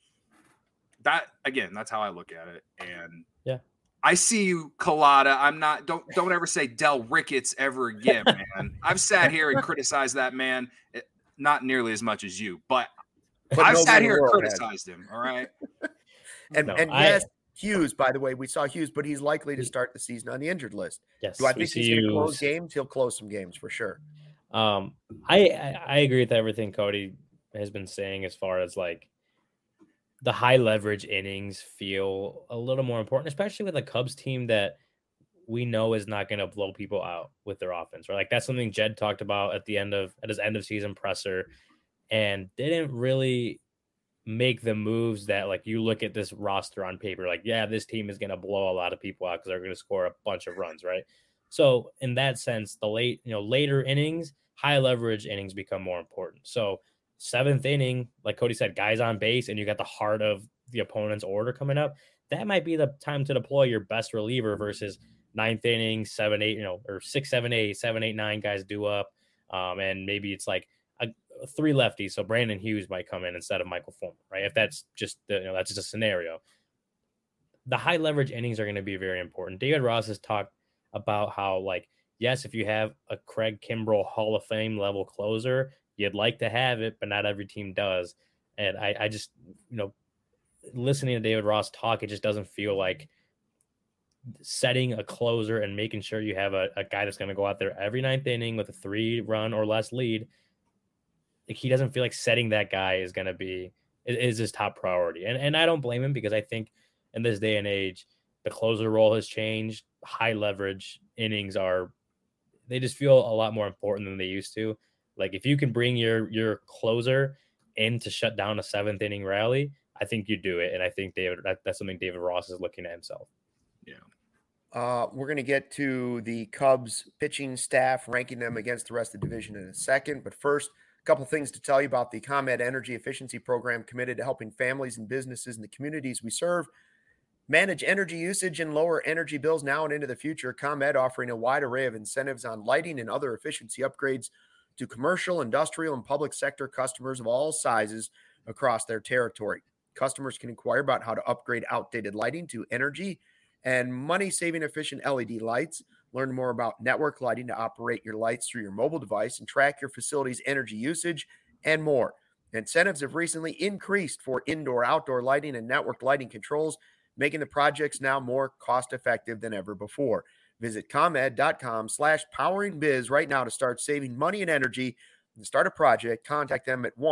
that's how I look at it. And I see you, Collada. I'm not. Don't ever say Del Ricketts ever again, man. I've sat here and criticized that man, not nearly as much as you, but I've sat here and criticized him. All right. Yes, Hughes. By the way, we saw Hughes, but he's likely to start the season on the injured list. Yes. Do I think he's going to close games? He'll close some games for sure. I agree with everything Cody has been saying as far as like the high leverage innings feel a little more important, especially with a Cubs team that we know is not going to blow people out with their offense. Right? Like that's something Jed talked about at his end of season presser, and didn't really make the moves that like you look at this roster on paper, like, this team is going to blow a lot of people out because they're going to score a bunch of runs. Right. So in that sense, the later innings, high leverage innings become more important. So 7th inning, like Cody said, guys on base, and you got the heart of the opponent's order coming up. That might be the time to deploy your best reliever versus 9th inning, 7, 8, or 6, 7, 8, 7, 8, 9 guys do up. And maybe it's like a 3 lefties. So Brandon Hughes might come in instead of Michael Fulmer, right? If that's just that's just a scenario. The high leverage innings are going to be very important. David Ross has talked about how, like, yes, if you have a Craig Kimbrell Hall of Fame level closer, you'd like to have it, but not every team does. And I just, listening to David Ross talk, it just doesn't feel like setting a closer and making sure you have a guy that's going to go out there every 9th inning with a 3-run or less lead. Like, he doesn't feel like setting that guy is going to be is his top priority. And I don't blame him, because I think in this day and age, the closer role has changed. High leverage innings they just feel a lot more important than they used to. Like, if you can bring your closer in to shut down a 7th inning rally, I think you do it. And I think that's something David Ross is looking at himself. Yeah. We're going to get to the Cubs pitching staff, ranking them against the rest of the division in a second. But first, a couple things to tell you about the ComEd Energy Efficiency Program, committed to helping families and businesses in the communities we serve manage energy usage and lower energy bills now and into the future. ComEd offering a wide array of incentives on lighting and other efficiency upgrades to commercial, industrial, and public sector customers of all sizes across their territory. Customers can inquire about how to upgrade outdated lighting to energy and money-saving efficient LED lights. Learn more about network lighting to operate your lights through your mobile device and track your facility's energy usage, and more. Incentives have recently increased for indoor, outdoor lighting and network lighting controls, making the projects now more cost-effective than ever before. Visit ComEd.com/poweringbiz right now to start saving money and energy. To start a project, contact them at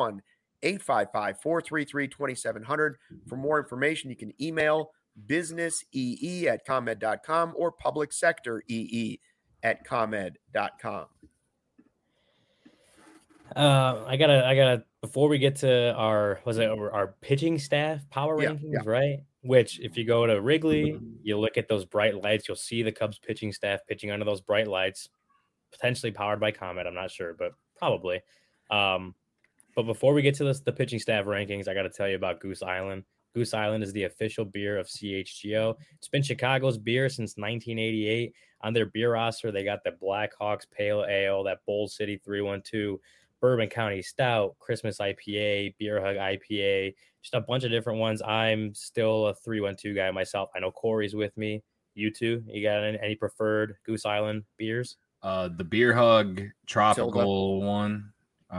1-855-433-2700. For more information, you can email businessee@comed.com or publicsectoree@comed.com. I gotta before we get to our pitching staff power rankings, right? Which if you go to Wrigley, you look at those bright lights, you'll see the Cubs pitching staff pitching under those bright lights, potentially powered by Comet. I'm not sure, but probably. But before we get to the pitching staff rankings, I got to tell you about Goose Island. Goose Island is the official beer of CHGO. It's been Chicago's beer since 1988. On their beer roster, they got the Blackhawks Pale Ale, that Bold City 312, Bourbon County Stout, Christmas IPA, Beer Hug IPA, just a bunch of different ones. I'm still a 312 guy myself. I know Corey's with me. You two, you got any preferred Goose Island beers? The Beer Hug Tropical one,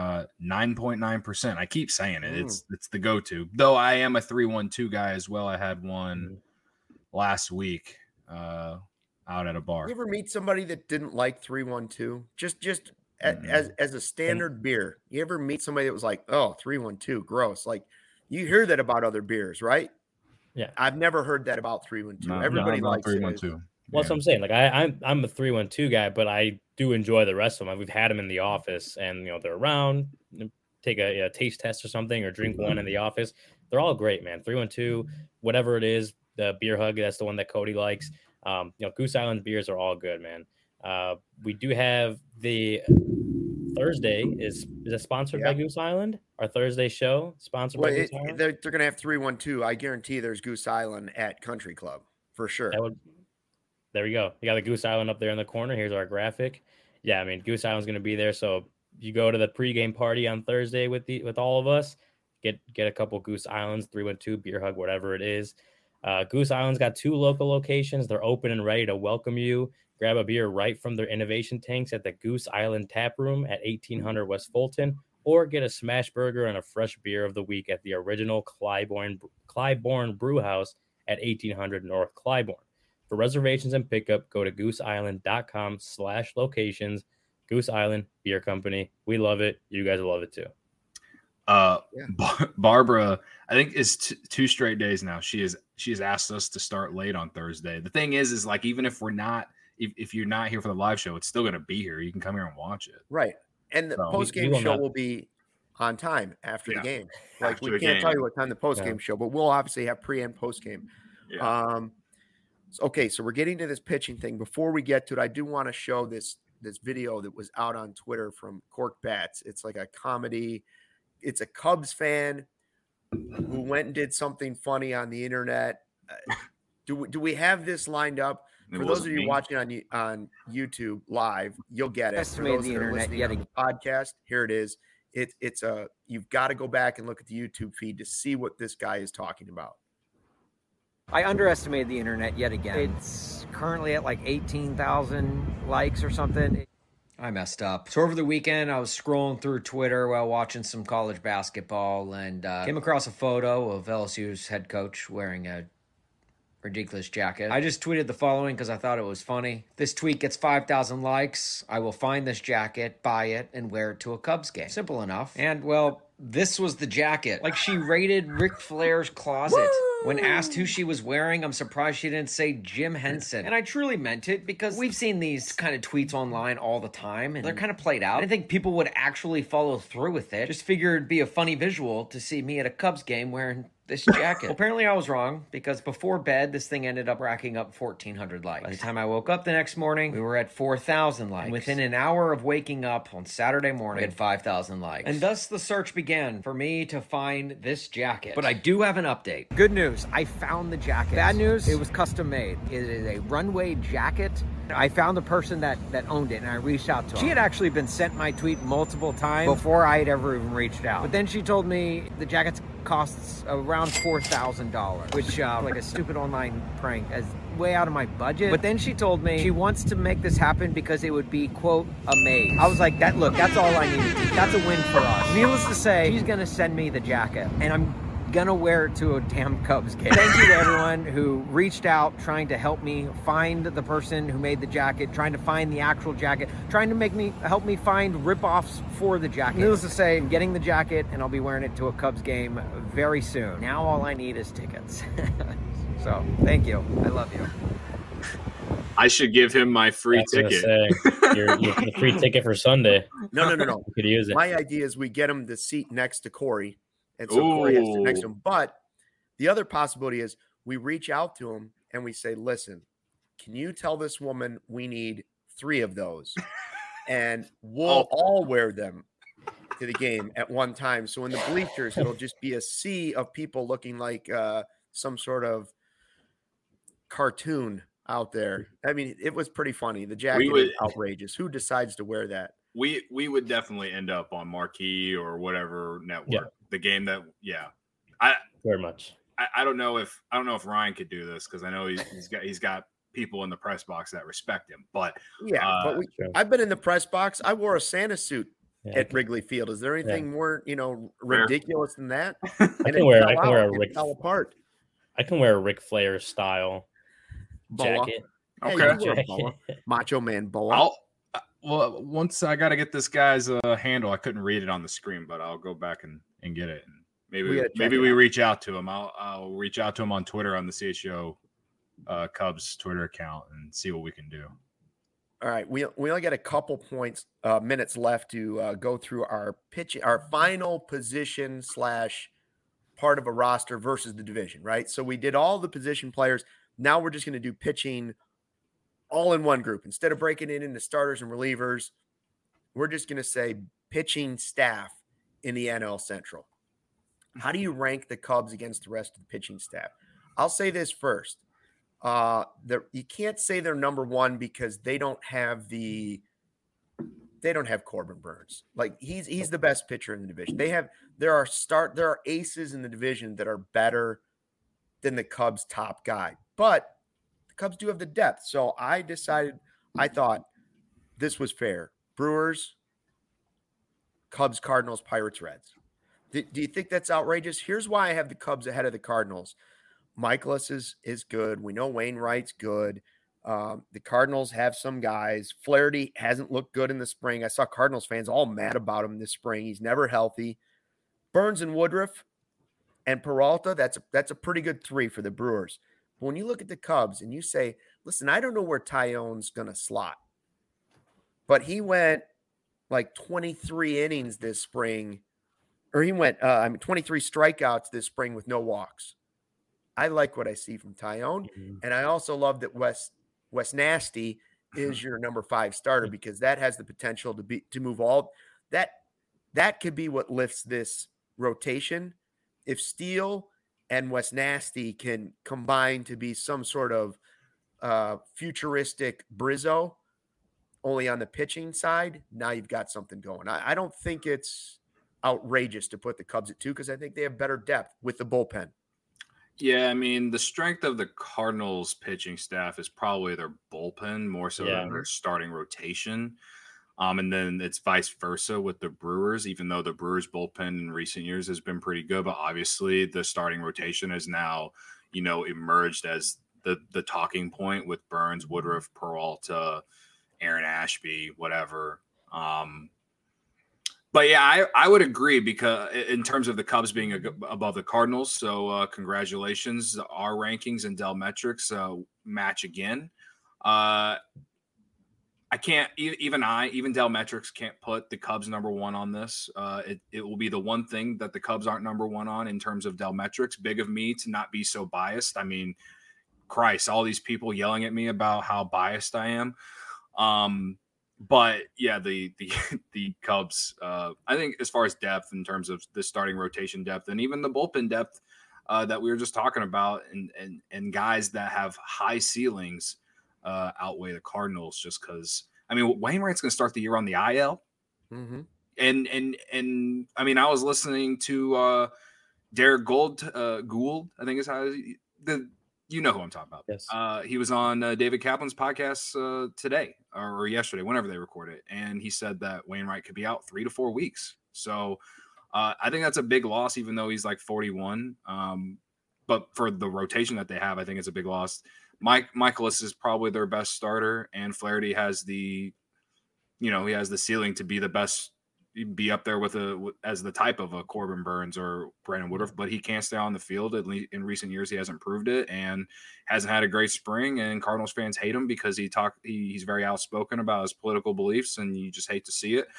9.9%. I keep saying it. It's the go-to. Though I am a 312 guy as well. I had one last week out at a bar. You ever meet somebody that didn't like 312? Just as a standard beer. You ever meet somebody that was like, oh, 312, gross. Like you hear that about other beers, right? Yeah. I've never heard that about 312. Everybody likes 312. Well, that's what I'm saying. Like I'm a 312 guy, but I do enjoy the rest of them. We've had them in the office, and they're around. Take a taste test or something, or drink one in the office. They're all great, man. 312, whatever it is. The Beer Hug, that's the one that Cody likes. Goose Island beers are all good, man. We do have the Thursday is it sponsored by Goose Island? Our Thursday show sponsored by Goose Island. They're going to have 312. I guarantee there's Goose Island at Country Club for sure. There we go. You got the Goose Island up there in the corner. Here's our graphic. Yeah, I mean, Goose Island's going to be there. So you go to the pregame party on Thursday with all of us, get a couple Goose Islands, 312, Beer Hug, whatever it is. Goose Island's got 2 local locations. They're open and ready to welcome you. Grab a beer right from their innovation tanks at the Goose Island Tap Room at 1800 West Fulton, or get a smash burger and a fresh beer of the week at the original Clybourne Brew House at 1800 North Clybourne. For reservations and pickup, go to gooseisland.com/locations. Goose Island Beer Company. We love it. You guys will love it too. Barbara, I think it's 2 straight days now. She has asked us to start late on Thursday. The thing is like, even if we're not, if you're not here for the live show, it's still going to be here. You can come here and watch it. Right. And the post-game show will be on time after the game. Like we can't tell you what time the post-game show, but we'll obviously have pre and post-game. Yeah. Okay, so we're getting to this pitching thing. Before we get to it, I do want to show this video that was out on Twitter from Cork Bats. It's like a comedy. It's a Cubs fan who went and did something funny on the internet. Do we have this lined up? For those of you watching on YouTube live, you'll get it. For those that are listening on the podcast, here it is. You've got to go back and look at the YouTube feed to see what this guy is talking about. I underestimated the internet yet again. It's currently at like 18,000 likes or something. I messed up. So over the weekend, I was scrolling through Twitter while watching some college basketball and came across a photo of LSU's head coach wearing a ridiculous jacket. I just tweeted the following because I thought it was funny. This tweet gets 5,000 likes. I will find this jacket, buy it, and wear it to a Cubs game. Simple enough. And, well, this was the jacket. Like, she raided Ric Flair's closet. Woo! When asked who she was wearing, I'm surprised she didn't say Jim Henson. And I truly meant it because we've seen these kind of tweets online all the time, and they're kind of played out. I didn't think people would actually follow through with it. Just figured it'd be a funny visual to see me at a Cubs game wearing this jacket. Well, apparently I was wrong, because before bed, this thing ended up racking up 1,400 likes. By the time I woke up the next morning, we were at 4,000 likes. And within an hour of waking up on Saturday morning, we had 5,000 likes. And thus the search began for me to find this jacket. But I do have an update. Good news, I found the jacket. Bad news, it was custom made. It is a runway jacket. I found the person that owned it, and I reached out to her. She had actually been sent my tweet multiple times before I had ever even reached out. But then she told me the jacket costs around $4,000, which like a stupid online prank, is way out of my budget. But then she told me she wants to make this happen because it would be, quote, amazing. I was like, that's all I need. That's a win for us. Needless to say, she's gonna send me the jacket, and I'm gonna wear it to a damn Cubs game. Thank you to everyone who reached out trying to help me find the person who made the jacket, trying to find the actual jacket, trying to help me find rip-offs for the jacket. Needless to say, I'm getting the jacket and I'll be wearing it to a Cubs game very soon. Now all I need is tickets. So thank you. I love you. I should give him my free ticket. Your free ticket for Sunday. No. You could use it. My idea is we get him the seat next to Corey, and so Corey has to sit next to him. But the other possibility is we reach out to him and we say, listen, can you tell this woman we need 3 of those? And we'll all wear them to the game at one time. So in the bleachers, it'll just be a sea of people looking like some sort of cartoon out there. I mean, it was pretty funny. The jacket is outrageous. Who decides to wear that? We would definitely end up on Marquee or whatever network. Yeah. The game that, very much. I don't know if Ryan could do this because I know he's got people in the press box that respect him. But I've been in the press box. I wore a Santa suit at Wrigley Field. Is there anything more ridiculous than that? I can wear a Rick fell apart. I can wear a Ric Flair style jacket. Okay. Macho Man Boa. Well, once I got to get this guy's handle. I couldn't read it on the screen, but I'll go back and get it. And maybe we reach out to him. I'll reach out to him on Twitter on the CHGO Cubs Twitter account and see what we can do. All right, we only got a couple minutes left to go through our final position / part of a roster versus the division, right? So we did all the position players. Now we're just going to do pitching all in one group. Instead of breaking it into starters and relievers, we're just going to say pitching staff in the NL Central. How do you rank the Cubs against the rest of the pitching staff? I'll say this first. You can't say they're number one because they don't have Corbin Burnes. Like he's the best pitcher in the division. There are aces in the division that are better than the Cubs' top guy, but the Cubs do have the depth. So I thought this was fair. Brewers, Cubs, Cardinals, Pirates, Reds. Do you think that's outrageous? Here's why I have the Cubs ahead of the Cardinals. Michaelis is good. We know Wainwright's good. The Cardinals have some guys. Flaherty hasn't looked good in the spring. I saw Cardinals fans all mad about him this spring. He's never healthy. Burnes and Woodruff and Peralta, that's a pretty good 3 for the Brewers. But when you look at the Cubs and you say, listen, I don't know where Taillon's going to slot, but he went like 23 innings this spring, or he went 23 strikeouts this spring with no walks. I like what I see from Taillon, and I also love that Wes Nasty is your number 5 starter because that has the potential to move all that could be what lifts this rotation. If Steele and Wes Nasty can combine to be some sort of futuristic Brizzo, only on the pitching side, now you've got something going. I don't think it's outrageous to put the Cubs at 2 because I think they have better depth with the bullpen. Yeah, I mean, the strength of the Cardinals pitching staff is probably their bullpen more so than their starting rotation. And then it's vice versa with the Brewers, even though the Brewers bullpen in recent years has been pretty good. But obviously the starting rotation has now, emerged as the talking point with Burnes, Woodruff, Peralta, Aaron Ashby, whatever. But yeah, I would agree because in terms of the Cubs being above the Cardinals. So congratulations. Our rankings and Dell Metrics match again. I can't even Dell Metrics can't put the Cubs number 1 on this. It will be the one thing that the Cubs aren't number 1 on in terms of Dell Metrics. Big of me to not be so biased. I mean, Christ, all these people yelling at me about how biased I am. But yeah, the Cubs, I think as far as depth in terms of the starting rotation depth and even the bullpen depth that we were just talking about and guys that have high ceilings outweigh the Cardinals just because, I mean, Wainwright's going to start the year on the IL. Mm-hmm. And I mean, I was listening to Derek Gould, I think is how you know who I'm talking about. Yes. He was on David Kaplan's podcast today or yesterday, whenever they record it. And he said that Wainwright could be out 3 to 4 weeks. So I think that's a big loss, even though he's like 41. But for the rotation that they have, I think it's a big loss. Michaelis is probably their best starter, and Flaherty has he has the ceiling to be the best, be up there as the type of a Corbin Burns or Brandon Woodruff, but he can't stay on the field. At least in recent years, he hasn't proved it and hasn't had a great spring. And Cardinals fans hate him because he's very outspoken about his political beliefs, and you just hate to see it.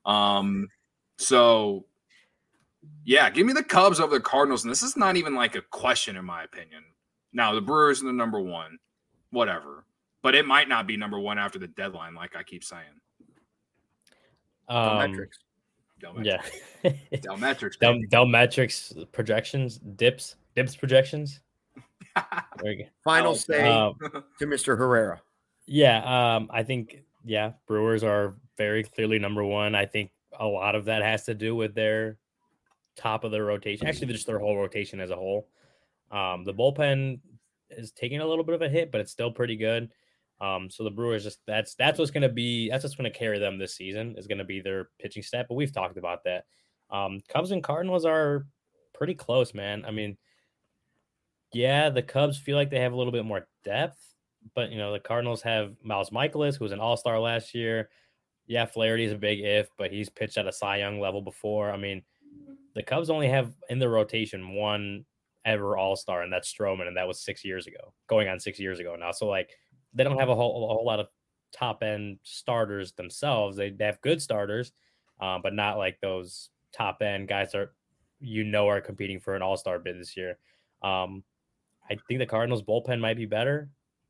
So yeah, give me the Cubs over the Cardinals. And this is not even like a question, in my opinion. Now, the Brewers are the number one, whatever. But it might not be number one after the deadline, like I keep saying. Delmetrics. Yeah. Delmetrics. Delmetrics projections, dips projections. There you go. Final say to Mr. Herrera. Yeah, I think, Brewers are very clearly number one. I think a lot of that has to do with their top of their rotation. Actually, just their whole rotation as a whole. The bullpen is taking a little bit of a hit, but it's still pretty good. So the Brewers that's what's going to carry them this season, is going to be their pitching staff. But we've talked about that. Cubs and Cardinals are pretty close, man. I mean, yeah, the Cubs feel like they have a little bit more depth, but the Cardinals have Miles Michaelis, who was an all-star last year. Yeah, Flaherty is a big if, but he's pitched at a Cy Young level before. I mean, the Cubs only have in their rotation one ever all-star, and that's Stroman, and that was 6 years ago, going on 6 years ago now. So they don't have a whole lot of top end starters themselves. They have good starters, but not like those top end guys that are competing for an all-star bid this year. I think the Cardinals bullpen might be better.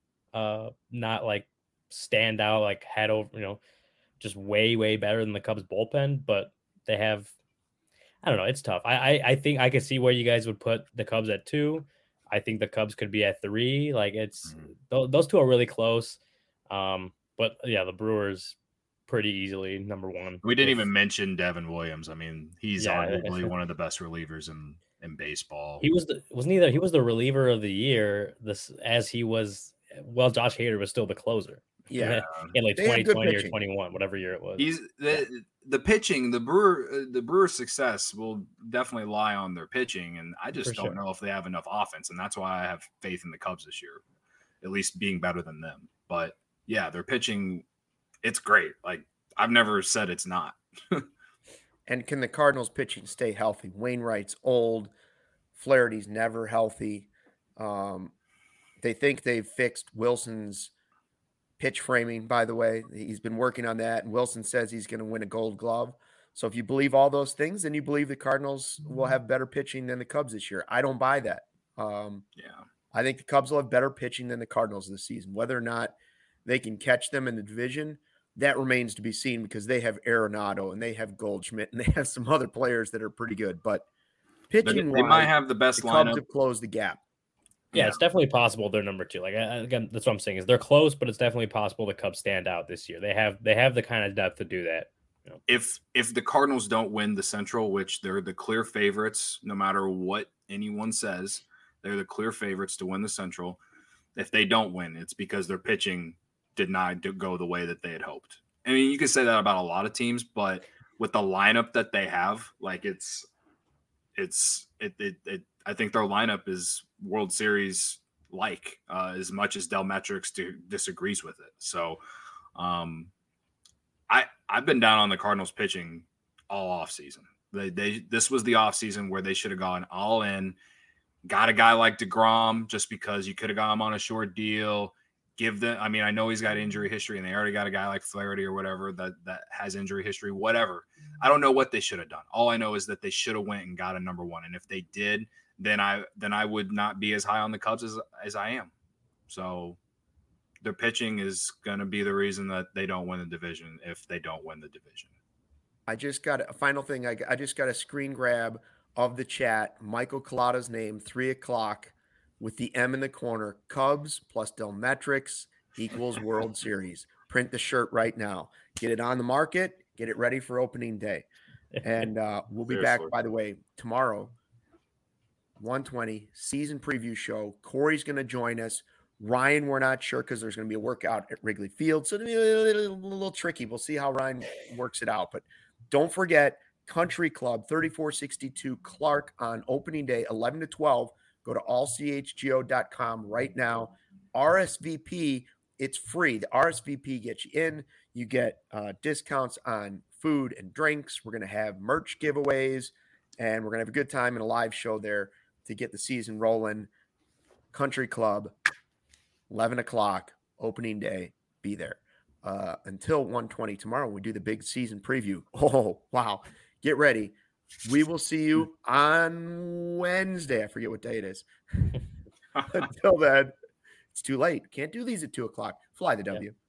Not like stand out, like head over, just way, way better than the Cubs bullpen, but they have, I don't know. It's tough. I think I could see where you guys would put the Cubs at 2. I think the Cubs could be at 3. Like those two are really close. But yeah, the Brewers pretty easily number one. We didn't even mention Devin Williams. I mean, he's arguably one of the best relievers in baseball. He was he was the reliever of the year. Josh Hader was still the closer. Yeah, in like 2020 or 21, whatever year it was. He's the pitching. The Brewers' success will definitely lie on their pitching, and I just don't know if they have enough offense, and that's why I have faith in the Cubs this year, at least being better than them. But yeah, their pitching, it's great. Like I've never said it's not. And can the Cardinals pitching stay healthy? Wainwright's old, Flaherty's never healthy. They think they've fixed Wilson's pitch framing, by the way. He's been working on that, and Wilson says he's going to win a Gold Glove. So if you believe all those things, then you believe the Cardinals will have better pitching than the Cubs this year. I don't buy that. I think the Cubs will have better pitching than the Cardinals this season. Whether or not they can catch them in the division, that remains to be seen, because they have Arenado and they have Goldschmidt and they have some other players that are pretty good. But pitching, they might have the best lineup. Cubs have closed the gap. Yeah, it's definitely possible they're number 2. Like again, that's what I'm saying, is they're close, but it's definitely possible the Cubs stand out this year. They have the kind of depth to do that. If the Cardinals don't win the Central, which they're the clear favorites, no matter what anyone says, they're the clear favorites to win the Central. If they don't win, it's because their pitching did not go the way that they had hoped. I mean, you can say that about a lot of teams, but with the lineup that they have, like I think their lineup is World Series like, as much as Delmetrics disagrees with it. So I've been down on the Cardinals pitching all off season. This was the off season where they should have gone all in, got a guy like DeGrom, just because you could have got him on a short deal. I know he's got injury history, and they already got a guy like Flaherty or whatever that has injury history, whatever. I don't know what they should have done. All I know is that they should have went and got a number 1. And if they did, then I would not be as high on the Cubs as I am. So their pitching is going to be the reason that they don't win the division if they don't win the division. I just got a final thing. I just got a screen grab of the chat. Michael Collada's name, 3:00 with the M in the corner. Cubs plus Delmetrics equals World Series. Print the shirt right now. Get it on the market. Get it ready for opening day. And we'll be back, by the way, tomorrow, 1:20, season preview show. Corey's going to join us. Ryan, we're not sure, because there's going to be a workout at Wrigley Field. So it'll be a little tricky. We'll see how Ryan works it out. But don't forget Country Club, 3462 Clark on opening day, 11 to 12. Go to allchgo.com right now. RSVP, it's free. The RSVP gets you in. You get discounts on food and drinks. We're going to have merch giveaways, and we're going to have a good time and a live show there to get the season rolling. Country Club, 11 o'clock, opening day. Be there. Until 1:20 tomorrow, we do the big season preview. Oh, wow. Get ready. We will see you on Wednesday. I forget what day it is. Until then, it's too late. Can't do these at 2 o'clock. Fly the W.